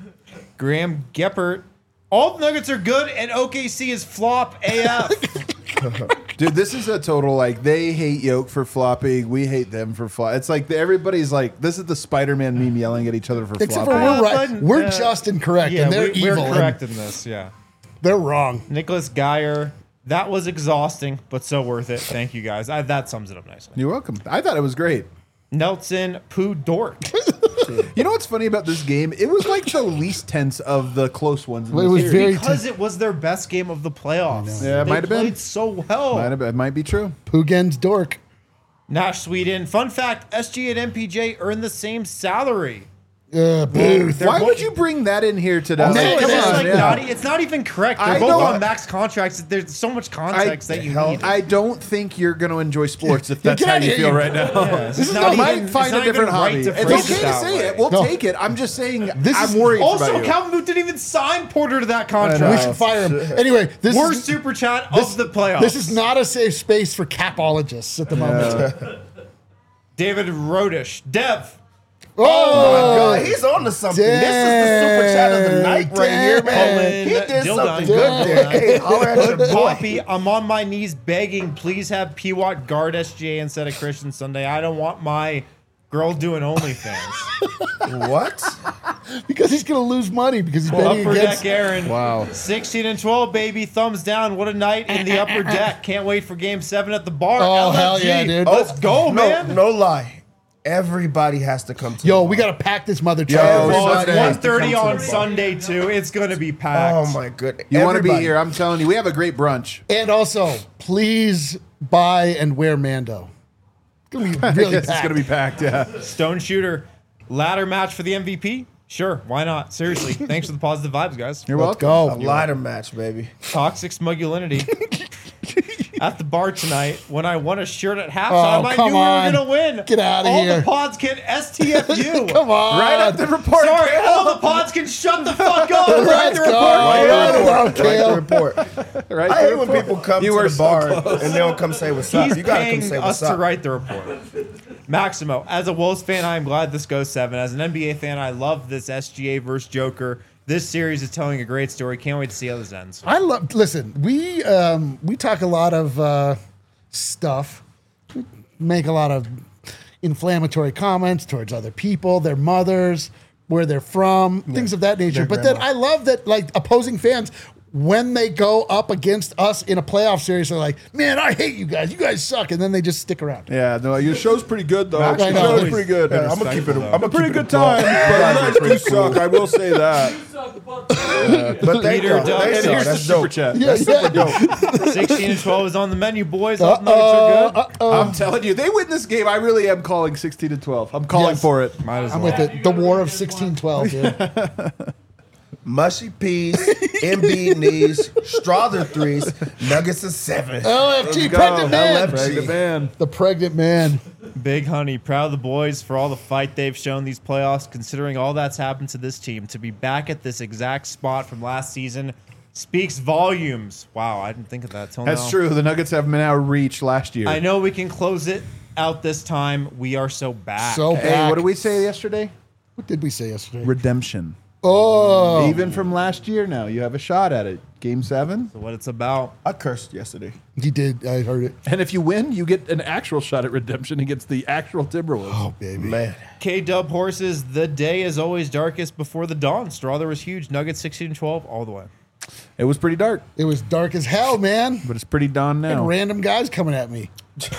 Graham Geppert. All the Nuggets are good, and OKC is flop AF. Dude, this is a total like they hate Yoke for flopping. We hate them for flop. It's like everybody's like this is the Spider-Man meme yelling at each other for Except for flopping. we're right. We're just and correct, and they're evil. We're correct in this. Yeah. They're wrong. Nicholas Geyer. That was exhausting, but so worth it. Thank you guys. That sums it up nicely. You're welcome. I thought it was great. Nelson Poo Dork. You know what's funny about this game? It was like the least tense of the close ones. In It the was series. very Because it was their best game of the playoffs. Yeah, it They might have been. played so well. It might be true. Pugen's dork. Nash Sweden. Fun fact: SG and MPJ earn the same salary. Booth. Why would you bring that in here today? Also, No, it's, come just on, like yeah. it's not even correct. They're I both know. on max contracts. There's so much context that you need. I don't think you're going to enjoy sports if that's get how out of you here, feel you- right now. This is I not might even- find it's a not different even right hobby. to It's phrase okay it to that say way. it. We'll No. take it. I'm just saying This I'm is- worried Also, about you. Calvin Booth didn't even sign Porter to that We contract. should fire him. Anyway, this Worst is super chat of the playoffs. this is not a safe space for capologists at the moment. David Rodish. Dev. Oh, God, he's on to something. This is the super chat of the night right here, man. He did Dildon. something good there. Hey, holler at your boy. Poppy, I'm on my knees begging. Please have P-Watt guard SGA instead of Christian Sunday. I don't want my girl doing OnlyFans. What? because he's going to lose money because he's betting Upper against. deck, Aaron. Wow. 16 and 12, baby. Thumbs down. What a night in the upper deck. Can't wait for game 7 at the bar. Oh, LFG. hell yeah, dude. Let's go, man. No lie. Everybody has to come to Yo, the we bar. got to pack this mother Yo, truck. Well, it's Sunday. 1:30 Come to on the bar. Sunday, too. It's going to be packed. Oh, my goodness. You want to be Everybody. here. I'm telling you. We have a great brunch. And also, please buy and wear Mando. It's going to be really Yes, it's packed. going to be packed, yeah. Stone Shooter. Ladder match for the MVP? Sure, why not? Seriously. Thanks for the positive vibes, guys. You're Let's welcome. go. A ladder match, baby. Toxic smugulinity. At the bar tonight, when I won a shirt at halftime, Oh, I come knew on. we were gonna win. Get outta All here. the pods can STFU. Come on. Right up the report. Sorry, all the pods can shut the fuck up. Right Let's the go. report. Right it up, Write the Kale. report. Right I hate there. when people come You to were the so bar close. and they don't come say what's up. He's You gotta come paying say us what's to up. write the report. Maximo, as a Wolves fan, I am glad this goes 7. As an NBA fan, I love this SGA versus Joker. This series is telling a great story. Can't wait to see how this ends. I love. Listen, we talk a lot of stuff, we make a lot of inflammatory comments towards other people, their mothers, where they're from, things of that nature. their But then grandma. I love that, like, opposing fans, when they go up against us in a playoff series, they're like, "Man, I hate you guys. You guys suck," and then they just stick around. Yeah, no, your show's pretty good, though. Max Your is show's always pretty good. been I'm gonna keep it. respectful, I'm though. a Pretty good time, but you guys do suck. I will say that. But thank Leader y'all. Doug. Thanks, And y'all. here's That's Super dope. chat. Yeah, yeah. 16 and 12 is on the menu, boys. Up Nuggets are good. I'm telling you, they win this game. I really am calling 16 to 12. I'm calling Yes. for it. Might as I'm well. with it. The War of 1612, dude. Mushy peas, MB knees, Strother threes, Nuggets of 7. LFG, Go. pregnant man. Pregnant man. The pregnant man. Big Honey, proud of the boys for all the fight they've shown these playoffs, considering all that's happened to this team. To be back at this exact spot from last season speaks volumes. Wow, I didn't think of that till now. That's true. The Nuggets have now reached last year. I know we can close it out this time. We are so back. So Hey, back. what did we say yesterday? What did we say yesterday? Redemption. Oh, Even from last year now, you have a shot at it. Game 7. what it's about. I cursed yesterday. he did. I heard it. And if you win, you get an actual shot at redemption against the actual Timberwolves. Oh, baby. Man. K-Dub Horses, the day is always darkest before the dawn. Strother was huge. Nuggets 16-12 all the way. It was pretty dark, It was dark as hell, man. but it's pretty dawn now. And random guys coming at me.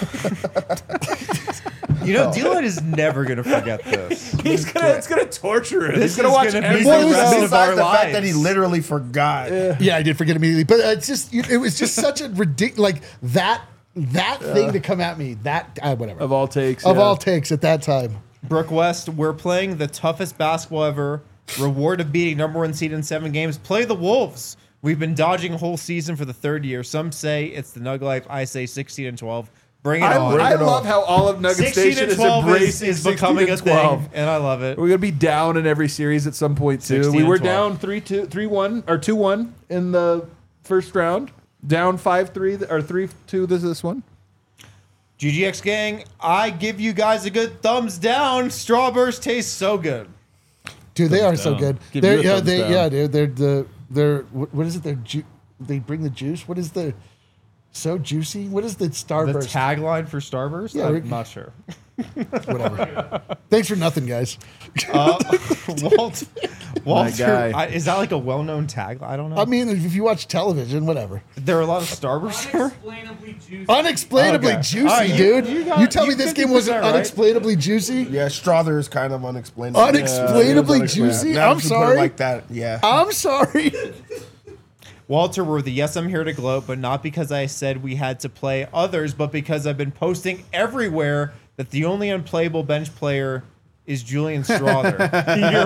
You know, D-Line is never going to forget this. It's gonna torture him. This He's gonna is watch gonna every be Well, the it was- rest of Besides our the fact lives. that he literally forgot. Yeah, I did forget immediately, but it's just it was just such a ridiculous like that thing to come at me. That whatever of all takes. of yeah. all takes at that time. Brooke West, we're playing the toughest basketball ever. Reward of beating number 1 seed in 7 games. Play the Wolves. We've been dodging a whole season for the 3rd year. Some say it's the Nug Life. I say 16 and 12. Bring it on. I love how all of Nugget 16 Station and is 12 embracing is becoming 16 a and 12. thing, and I love it. We're gonna be down in every series at some point too. 16 We and were 12. down 3-1 or 2-1 in the first round. Down 5-3 or 3-2 this one. GGX gang, I give you guys a good thumbs down. Strawburst tastes so good. Dude, they are so good. Give They're, you a yeah, thumbs they down. yeah, dude. They're what is it? They bring the juice. What is the So juicy. What is the The Starburst? tagline for Starburst? Yeah, I'm not sure. Whatever. Thanks for nothing, guys. Walter, guy. is that like a well-known tagline? I don't know. I mean, if you watch television, whatever. There are a lot of Starburst there. Unexplainably juicy. Unexplainably Okay. juicy, All right, dude. you You, got- tell me you this game wasn't 50% right. unexplainably juicy? Yeah, Strother is kind of unexplainable. Unexplainably Yeah, juicy? now I'm that you put it sorry. like that, yeah. I'm sorry. Walter Worthy, yes, I'm here to gloat, but not because I said we had to play others, but because I've been posting everywhere that the only unplayable bench player is Julian Strother. You're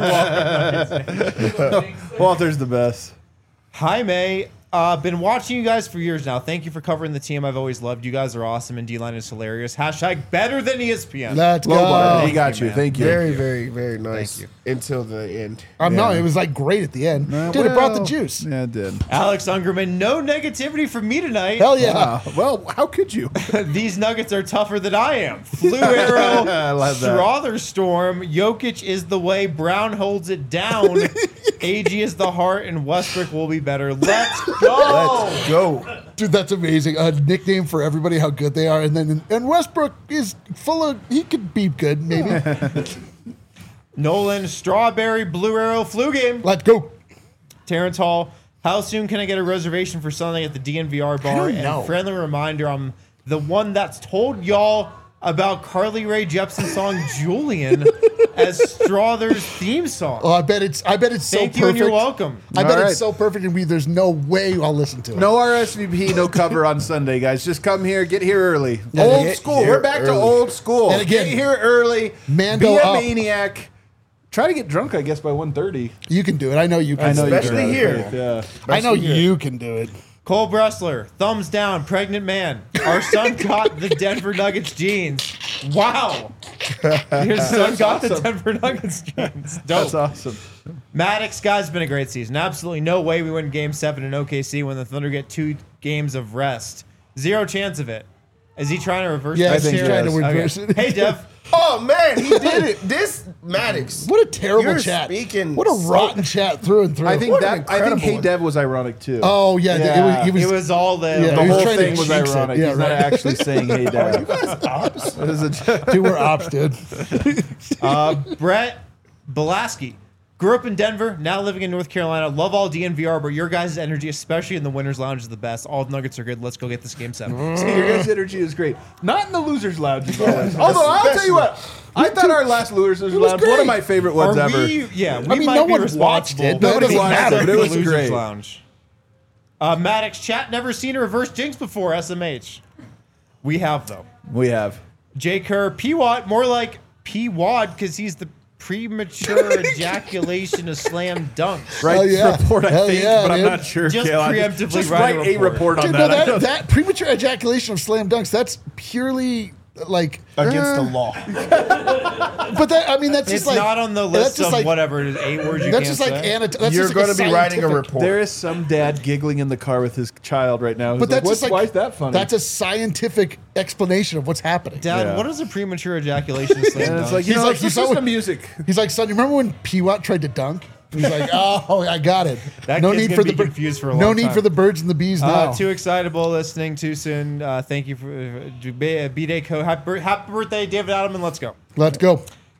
welcome. Walter's the best. Jaime, been watching you guys for years now. Thank you for covering the team I've always loved. You guys are awesome, and D-Line is hilarious. Hashtag better than ESPN. Let's Low bar. go. He got you. man. Thank you. Very, very, very nice. Thank Until the end. No, it was like great at the end. Dude, it brought the juice. Yeah, it did. Alex Ungerman, no negativity from me tonight. Hell yeah. Well, how could you? These Nuggets are tougher than I am. Flu Arrow, I love that. Strother Storm, Jokic is the way, Brown holds it down, AG is the heart, and Westbrook will be better. Let's go! Let's go. Dude, that's amazing. A nickname for everybody, how good they are. And Westbrook is full of, he could be good, maybe. Nolan, Strawberry, Blue Arrow, Flu Game. Let's go. Terrence Hall, how soon can I get a reservation for Sunday at the DNVR bar? don't know. And friendly reminder, I'm the one that's told y'all about Carly Rae Jepsen's song Julian as Strother's theme song. Oh, I bet it's so Thank perfect. you and you're welcome. I bet All right. it's so perfect, and there's no way I'll listen to it. No RSVP, no cover on Sunday, guys. Just come here, get here early. Yeah, Old get school. here We're back to early. old school. And again, get here early. Mando be a up. maniac. Try to get drunk, I guess, by 1:30. You can do it. I know you can. I know you Especially can. here. Yeah. I know Especially here. you can do it. Cole Bressler, thumbs down, pregnant man. Our son got the Denver Nuggets jeans. Wow. Your son got the Denver Nuggets jeans. Dope. That's awesome. Maddox, guys, been a great season. Absolutely no way we win Game 7 in OKC when the Thunder get 2 games of rest. Zero chance of it. Is he trying to reverse Yeah, that I think here? he's trying to Okay. reverse it. Hey, Dev. Oh, man, he did it. This, Maddox. What a terrible You're chat. speaking What a so- rotten chat through and through. I think What an I think incredible Hey one. Dev was ironic too. Oh yeah, Yeah, it was. It was all the, Yeah, the he was whole trying to thing was jinx it. ironic. Yeah, He's not right. actually saying Hey Dev. It was a Dude, we're ops, dude. Brett Belaski. Grew up in Denver, now living in North Carolina. Love all DNVR, but your guys' energy, especially in the Winners Lounge, is the best. All the Nuggets are good. Let's go get this Game 7. See, your guys' energy is great. Not in the losers' lounge, as always. Although I'll tell you what, I thought our last losers' lounge one of my favorite ones Are ever. we? Yeah, we I mean, might no be one responsible. watched it. but Nobody it watched matters it, but it for was the Losers great. Lounge. Maddox chat, never seen a reverse jinx before. SMH. We have though. We have. J Kerr, P-Watt, more like P-Wad because he's the premature ejaculation of slam dunks. Right Hell yeah. report, I Hell think, yeah, but I'm dude. not sure. Just Kale. preemptively Just write write a a report on Dude, that. no, I don't- that premature ejaculation of slam dunks, that's purely like Against the law. But that, I mean, that's It's just like not on the that's list just of like, whatever it is, 8 words you That's can't just like say. that's You're just like going to be writing a scientific- report. There is some dad giggling in the car with his child right now. But that's just like why is that funny? That's a scientific explanation of what's happening. Dad, Yeah. what is a premature ejaculation slam and dunk? it's like, He's like, it's he's just so- the music. He's like, son, you remember when P-Watt tried to dunk? He's like, oh, I got it. That no kid's need gonna for be the bir- confused for a no long need time. for the birds and the bees now. Too excitable, listening too soon. Thank you for B-Day Co. Happy birthday, David Adelman. Let's go. Let's go.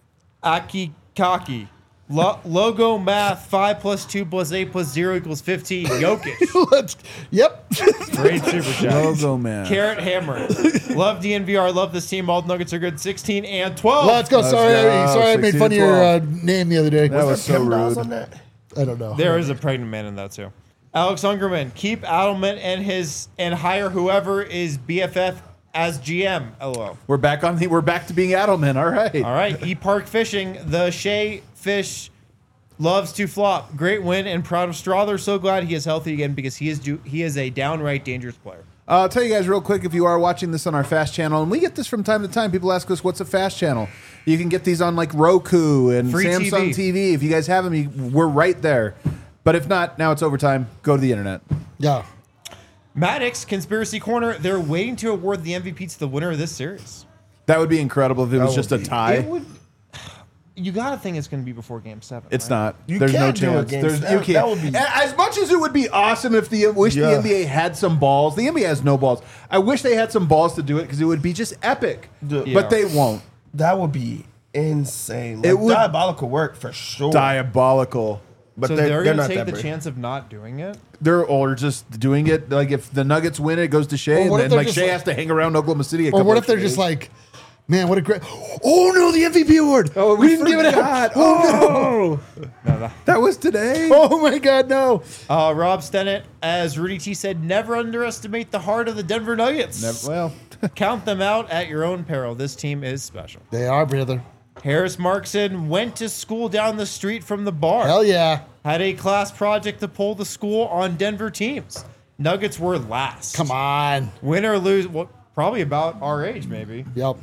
Aki Kaki. Logo math 5 + 2 + 8 + 0 = 15. Jokic. Yep. Great super chat. Logo man. Carrot Hammer. Love DNVR. Love this team. All the Nuggets are good. 16 and 12. Let's go. Let's Sorry, go. sorry, I made 16 fun of to your 12. name the other day. That was so $10 rude. on that? I don't know. There is a pregnant man in that too. Alex Ungerman. Keep Adelman and hire whoever is BFF as GM. LOL. We're back to being Adelman. All right. All right. E-Park Fishing. The Shea Fish loves to flop. Great win and proud of Strother. So glad he is healthy again because he is a downright dangerous player. I'll tell you guys real quick, if you are watching this on our Fast channel, and we get this from time to time, people ask us, what's a Fast channel? You can get these on like Roku and Free Samsung TV. If you guys have them, we're right there. But if not, now it's overtime. Go to the internet. Yeah. Maddox, Conspiracy Corner, they're waiting to award the MVP to the winner of this series. That would be incredible if it was would just a be- tie. It would. You gotta think it's gonna be before Game 7. It's right? not. You There's no can't do a chance. game There's, seven. you can't. That would be- As much as it would be awesome if the Yeah. NBA had some balls. The NBA has no balls. I wish they had some balls to do it because it would be just epic. Yeah. But they won't. That would be insane. Like, It would- diabolical work for sure. Diabolical. But So they're gonna not take that the brave. chance of not doing it. They're or just doing it like if the Nuggets win, it goes to Shea, Or what and if then they're like just Shea like- has to hang around Oklahoma City. Or what if they're just like, man, what a great. Oh no, the MVP award. Oh, we didn't give it out. Oh no, that was today. Oh my God, no. Rob Stennett, as Rudy T said, never underestimate the heart of the Denver Nuggets. Well, Count them out at your own peril. This team is special. They are, brother. Harris Markson went to school down the street from the bar. Hell yeah. Had a class project to pull the school on Denver teams. Nuggets were last. Come on. Win or lose, well, probably about our age, maybe. Yep.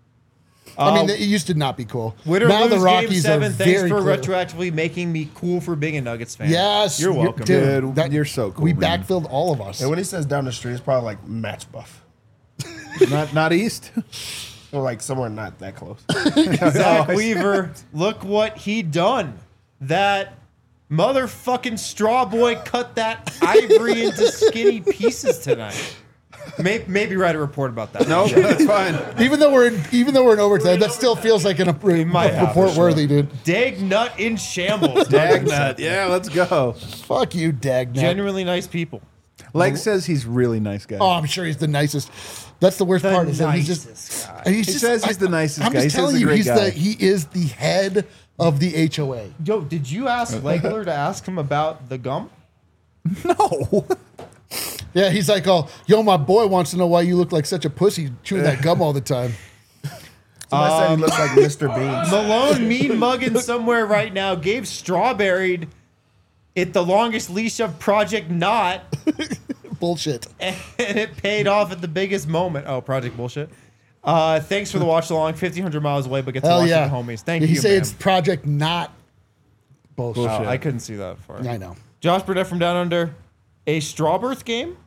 I mean, it used to not be cool. Win or Now lose the Game Rockies 7. are Thanks very for clear. retroactively making me cool for being a Nuggets fan. Yes. You're welcome. Dude, you're so cool, We man. backfilled all of us. And when he says down the street, it's probably like Match Buff. not East. Or like somewhere not that close. Zach Weaver, look what he done. That motherfucking straw boy cut that ivory into skinny pieces tonight. Maybe write a report about that. No, that's fine. Even though we're in overtime, that still feels like an might have report to, worthy, dude. Dag nut in shambles. Dagnut. Yeah, let's go. Fuck you, Dagnut. Genuinely nice people. Leg says he's really nice guy. Oh, I'm sure he's the nicest. That's the worst part. Is that he's just. nicest guy. He's He just says he's the nicest I'm guy. just He says telling he's a you, great guy. he is the head of the HOA. Yo, did you ask Legler to ask him about the gum? No. Yeah, he's like, oh, yo, my boy wants to know why you look like such a pussy chewing that gum all the time. Somebody said he looks like Mr. Bean. Malone mean mugging somewhere right now gave Strawberried it the longest leash of Project Not, Bullshit. and it paid off at the biggest moment. Oh, Project Bullshit. Thanks for the watch along. 1,500 miles away, but get to Hell watch yeah. the homies. Thank He you, say man. it's Project Not bullshit. Oh, I couldn't see that far. I know. Josh Burnett from Down Under. A Strawbirth game?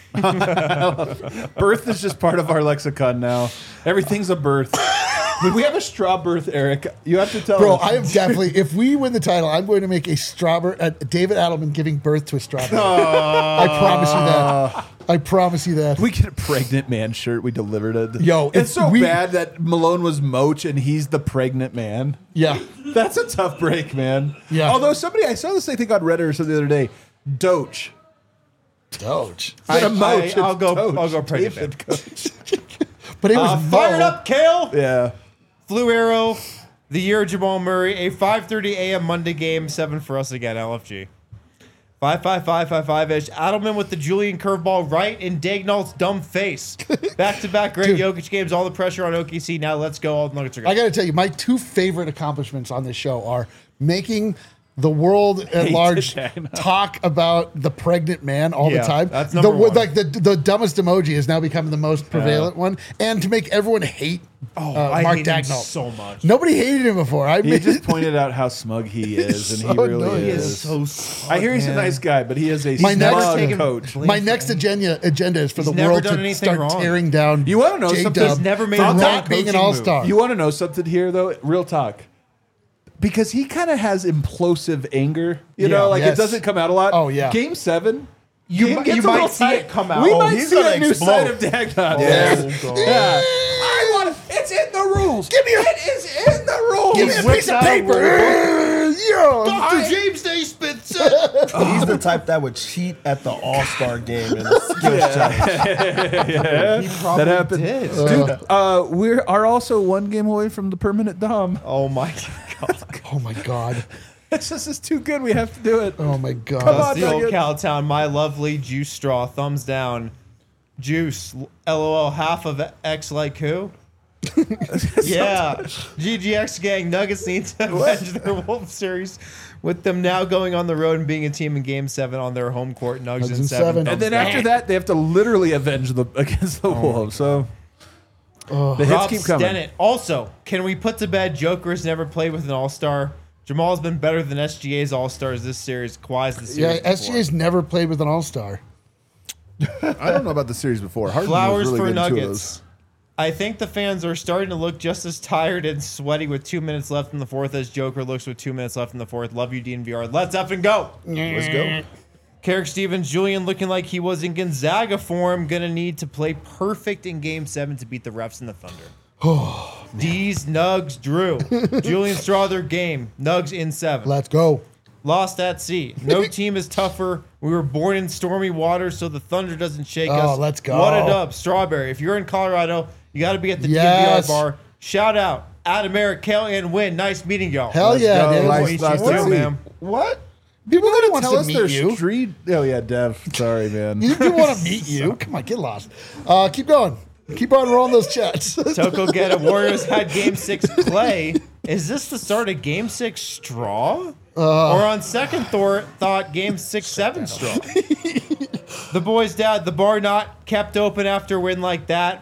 Birth is just part of our lexicon now. Everything's a birth. We have a straw birth, Eric. You have to tell Bro, us. I am definitely, if we win the title, I'm going to make a strawberry, David Adelman giving birth to a strawberry. I promise you that. I promise you that. We get a pregnant man shirt. We delivered it. Yo, it's so we- bad that Malone was Moach and he's the pregnant man. Yeah. That's a tough break, man. Yeah. Although I saw this, I think on Reddit or something the other day. Doge. Doge. Instead of Moach, I'll it's go. Doge. I'll go pregnant. David man. Coach. But it was Fired Mo. up, Kale. Yeah. Flu Arrow, the year of Jamal Murray, a 5:30 a.m. Monday game, 7 for us again, LFG. 5-5-5-5-5-ish. Adelman with the Julian curveball right in Dagnall's dumb face. Back-to-back great Jokic games, all the pressure on OKC. Now let's go. All the Nuggets are I good. got to tell you, my two favorite accomplishments on this show are making the world at large talk about the pregnant man all Yeah, the time. that's number one. Like the dumbest emoji has now become the most prevalent one, and to make everyone hate I Mark hate him Dagnall so much. Nobody hated him before. I He made just pointed out how smug he is, and so he really annoying. He is. so smug, I hear he's a man. nice guy, but he is a My next- smug taken- coach. my next agenda is for He's the never world done to anything start wrong. tearing down. You wanna know something? J-Dub He's never made for a wrong not being an coaching all-star. You want to know something here, though? Real talk. Because he kind of has implosive anger. You know, like Yes. it doesn't come out a lot. Oh, yeah. Game 7. You Game might- gets you a might little see tight. it come out. We Oh, might he's see gonna a new explode. side of Dagnall. Yeah. I want it's in the rules. Give me it is in the rules. Give me a piece of paper. Dr. James Naismith said. He's the type that would cheat at the All-Star game in a skills challenge. He probably That happened. did. Dude, we are also one game away from the permanent Dom. Oh my god. Oh my god. It's just it's too good. We have to do it. Oh my god. Come on. That's the old Nuggets. Cowtown. My lovely juice straw. Thumbs down. Juice. LOL. Half of X like who? Yeah. GGX gang. Nuggets need to avenge their Wolf series with them now going on the road and being a team in Game 7 on their home court. Nuggets in 7. And then after that, they have to literally avenge against the Wolves. So the hits Rob keep coming. Stennett. Also, can we put to bed Joker's never played with an all-star? Jamal's been better than SGA's all-stars this series. Kawhi's the series Yeah, before. SGA's never played with an all-star. I don't know about the series before. Harden Flowers was really for good in two of Nuggets. I think the fans are starting to look just as tired and sweaty with 2 minutes left in the fourth as Joker looks with 2 minutes left in the fourth. Love you, DNVR. Let's up and go. Let's go. Carrick Stevens, Julian looking like he was in Gonzaga form. Gonna need to play perfect in Game 7 to beat the refs and the Thunder. D's, Nugs, Drew. Julian Strother, game. Nugs in 7. Let's go. Lost at sea. No team is tougher. We were born in stormy waters, so the thunder doesn't shake us. Let's go. What a dub. Strawberry. If you're in Colorado, you got to be at the Yes. DNVR bar. Shout out. Adam, Eric, Kale, and Win. Nice meeting y'all. Hell yeah, go. dude. Nice Meet to you see too, you. man. What? People really want Tell to us meet their you. street. Oh yeah, Dev. Sorry, man. People want to meet you. Come on, get lost. Keep going. Keep on rolling those chats. Toko Get It. Warriors had Game 6 play. Is this the start of Game 6 straw? Or on second thought, Game 6-7 straw? The boys' dad, the bar not kept open after a win like that.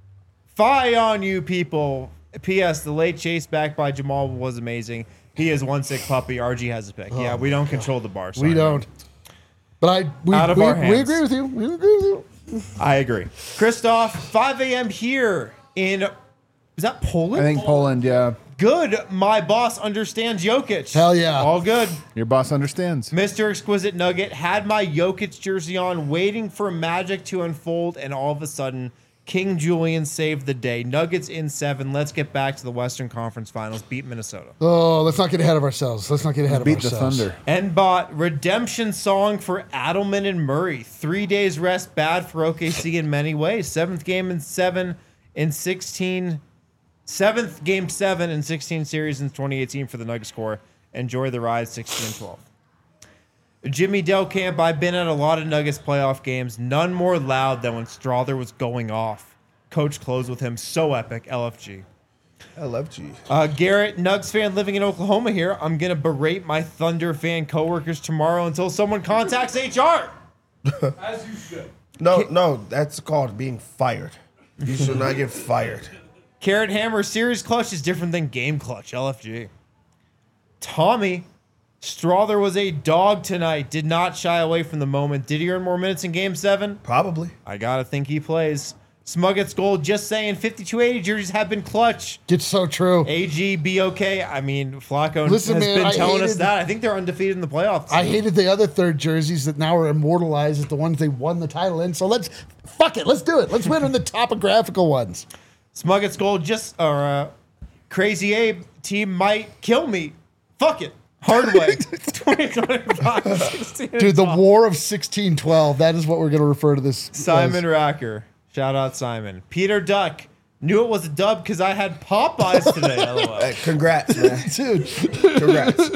Fie on you people. P.S. The late chase back by Jamal was amazing. He is one sick puppy. RG has a pick. Yeah, we don't control the bar. Sorry, We don't. But we Out of our we hands. agree with you. We agree with you. I agree. Christoph, 5 a.m. here in, is that Poland? I think Poland. Yeah, Good. My boss understands Jokic. Hell yeah. All good. your boss understands. Mr. Exquisite Nugget had my Jokic jersey on, waiting for magic to unfold, and all of a sudden, King Julian saved the day. Nuggets in 7. Let's get back to the Western Conference Finals. Beat Minnesota. Oh, let's not get ahead of ourselves. Beat the Thunder. Nbot, redemption song for Adelman and Murray. 3 days rest, bad for OKC in many ways. Seventh game in 7 in 16. Seventh game 7 in 16 series in 2018 for the Nuggets score. Enjoy the ride, 16-12. Jimmy Delcamp, I've been at a lot of Nuggets playoff games. None more loud than when Strother was going off. Coach closed with him. So epic. LFG. LFG. Garrett, Nugs fan living in Oklahoma here. I'm going to berate my Thunder fan coworkers tomorrow until someone contacts HR. As you should. No, that's called being fired. You should not get fired. Carrot Hammer, series clutch is different than game clutch. LFG. Tommy, Strother was a dog tonight. Did not shy away from the moment. Did he earn more minutes in game 7? Probably. I got to think he plays. Smuggets Gold, just saying 5280 jerseys have been clutch. It's so true. AG, be okay. I mean, Flacco Listen, has man, been I telling us hated- that. I think they're undefeated in the playoffs. I hated the other third jerseys that now are immortalized as the ones they won the title in. So let's do it. Let's win on the topographical ones. Smuggets Gold, Crazy Abe, team might kill me. Fuck it. Hard way. 2025, 16 Dude, the War of 1612. That is what we're going to refer to this. Simon Racker. Shout out Simon. Peter Duck. Knew it was a dub because I had Popeyes today. LOL. Hey, congrats, man. as. Dude, Congrats.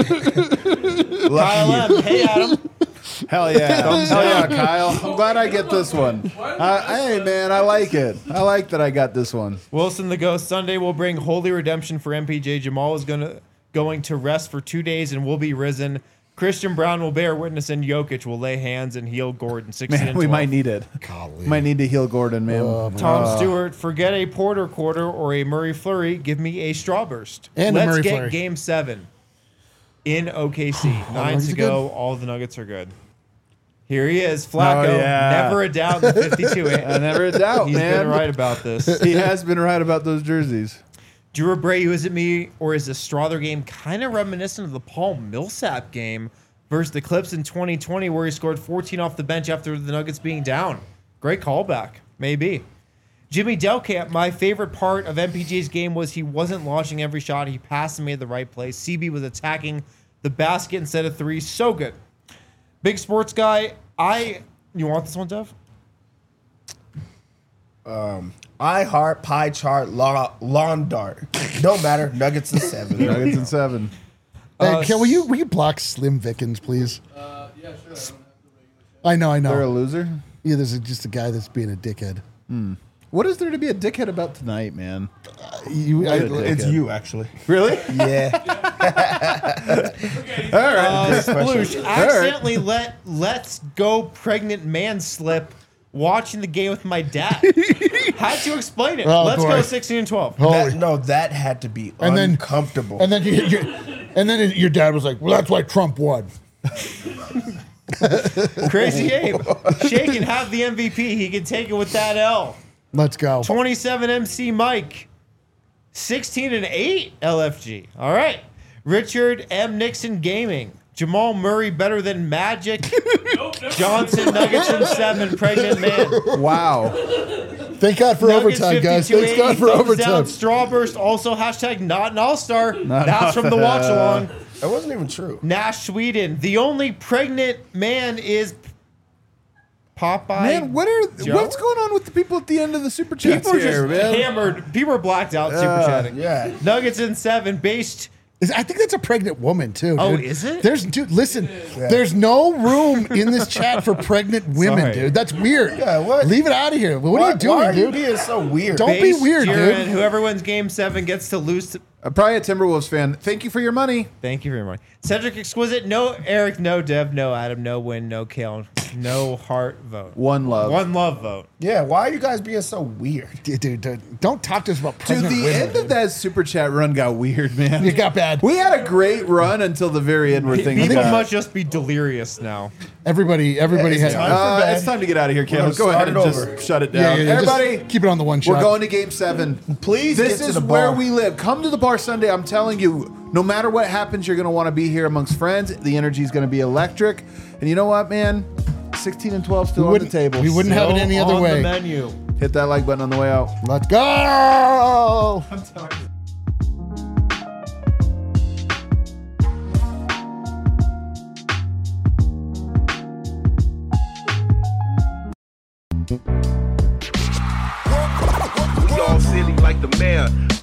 Kyle M. Hey, Adam. Hell yeah. Hell yeah, Kyle. I'm glad I get this one. Hey, man, I like it. I like that I got this one. Wilson the Ghost. Sunday will bring holy redemption for MPJ. Jamal is going to rest for 2 days and will be risen. Christian Brown will bear witness, and Jokic will lay hands and heal Gordon. 16 Man, and we 12. might need it. Might need to heal Gordon, man. Tom Stewart, forget a Porter quarter or a Murray flurry. Give me a Strawburst. And a Let's Murray get flurry. game 7 in OKC. 9 Nuggets to are go. All the Nuggets are good. Here he is, Flacco. Oh, yeah. Never a doubt in the 52. I never a doubt, He's man. been right about this. He has been right about those jerseys. Drew Abreu, is it me or is the Strother game kind of reminiscent of the Paul Millsap game versus the Clips in 2020 where he scored 14 off the bench after the Nuggets being down? Great callback. Maybe. Jimmy Delcamp, my favorite part of MPJ's game was he wasn't launching every shot. He passed and made the right play. CB was attacking the basket instead of 3. So good. Big sports guy, you want this one, Dev? I heart pie chart lawn dart. Don't matter. Nuggets in 7. Nuggets in 7. hey, will you block Slim Vickens, please? Yeah, sure. I don't have to I know. They're a loser. Yeah, there's just a guy that's being a dickhead. What is there to be a dickhead about tonight, man? It's you, actually. Really? Yeah. All right. Sploosh accidentally let's go pregnant man slip watching the game with my dad. Had to explain it. Oh, Let's boy. go 16 and 12. That had to be And then- uncomfortable. And then your dad was like, "Well, that's why Trump won." Crazy Abe. Shake and have the MVP. He can take it with that L. Let's go. 27 MC Mike. 16 and 8 LFG. All right. Richard M. Nixon Gaming. Jamal Murray better than Magic. Johnson Nuggets in 7. Pregnant man. Wow. Thank God for Nuggets overtime, guys. 52, Thank God for 80, thumbs overtime. down. Strawburst also hashtag not an all-star. That's from the watch along. That wasn't even true. Nash Sweden. The only pregnant man is Popeye. Man, Joe? what's going on with the people at the end of the super chats People are here, just man? hammered. People are blacked out super chatting. Yeah. Nuggets in 7. Based. I think that's a pregnant woman too. Dude. Oh, is it? Dude, listen. There's no room in this chat for pregnant women, Sorry. dude. That's weird. Yeah, what? Leave it out of here. What are you doing, Why are you dude? being so weird? Don't be Based, weird, Jared, dude. Whoever wins Game 7 gets to lose. Probably a Timberwolves fan. Thank you for your money. Thank you very much. Cedric Exquisite. No Eric. No Dev. No Adam. No Win. No Kale. No Heart vote. One love. One love vote. Yeah, why are you guys being so weird? Dude, don't talk to us about Dude, pregnant the women. end of that super chat run got weird, man. It got bad. We had a great run until the very end where things People got... must just be delirious now. Everybody it's had. time. for bed. it's time to get out of here, We're gonna Caleb. Go ahead and start it just over. shut it Yeah, down. yeah, just Everybody, keep it on the one shot. we're going to Game 7. Please This get to is the where bar. we live. Come to the bar Sunday. I'm telling you, no matter what happens, you're going to want to be here amongst friends. The energy is going to be electric. And you know what, man? 16 and 12 still on the table. We wouldn't have it Still any other on way. the menu. Hit that like button on the way out. Let's go. We all silly like the mayor.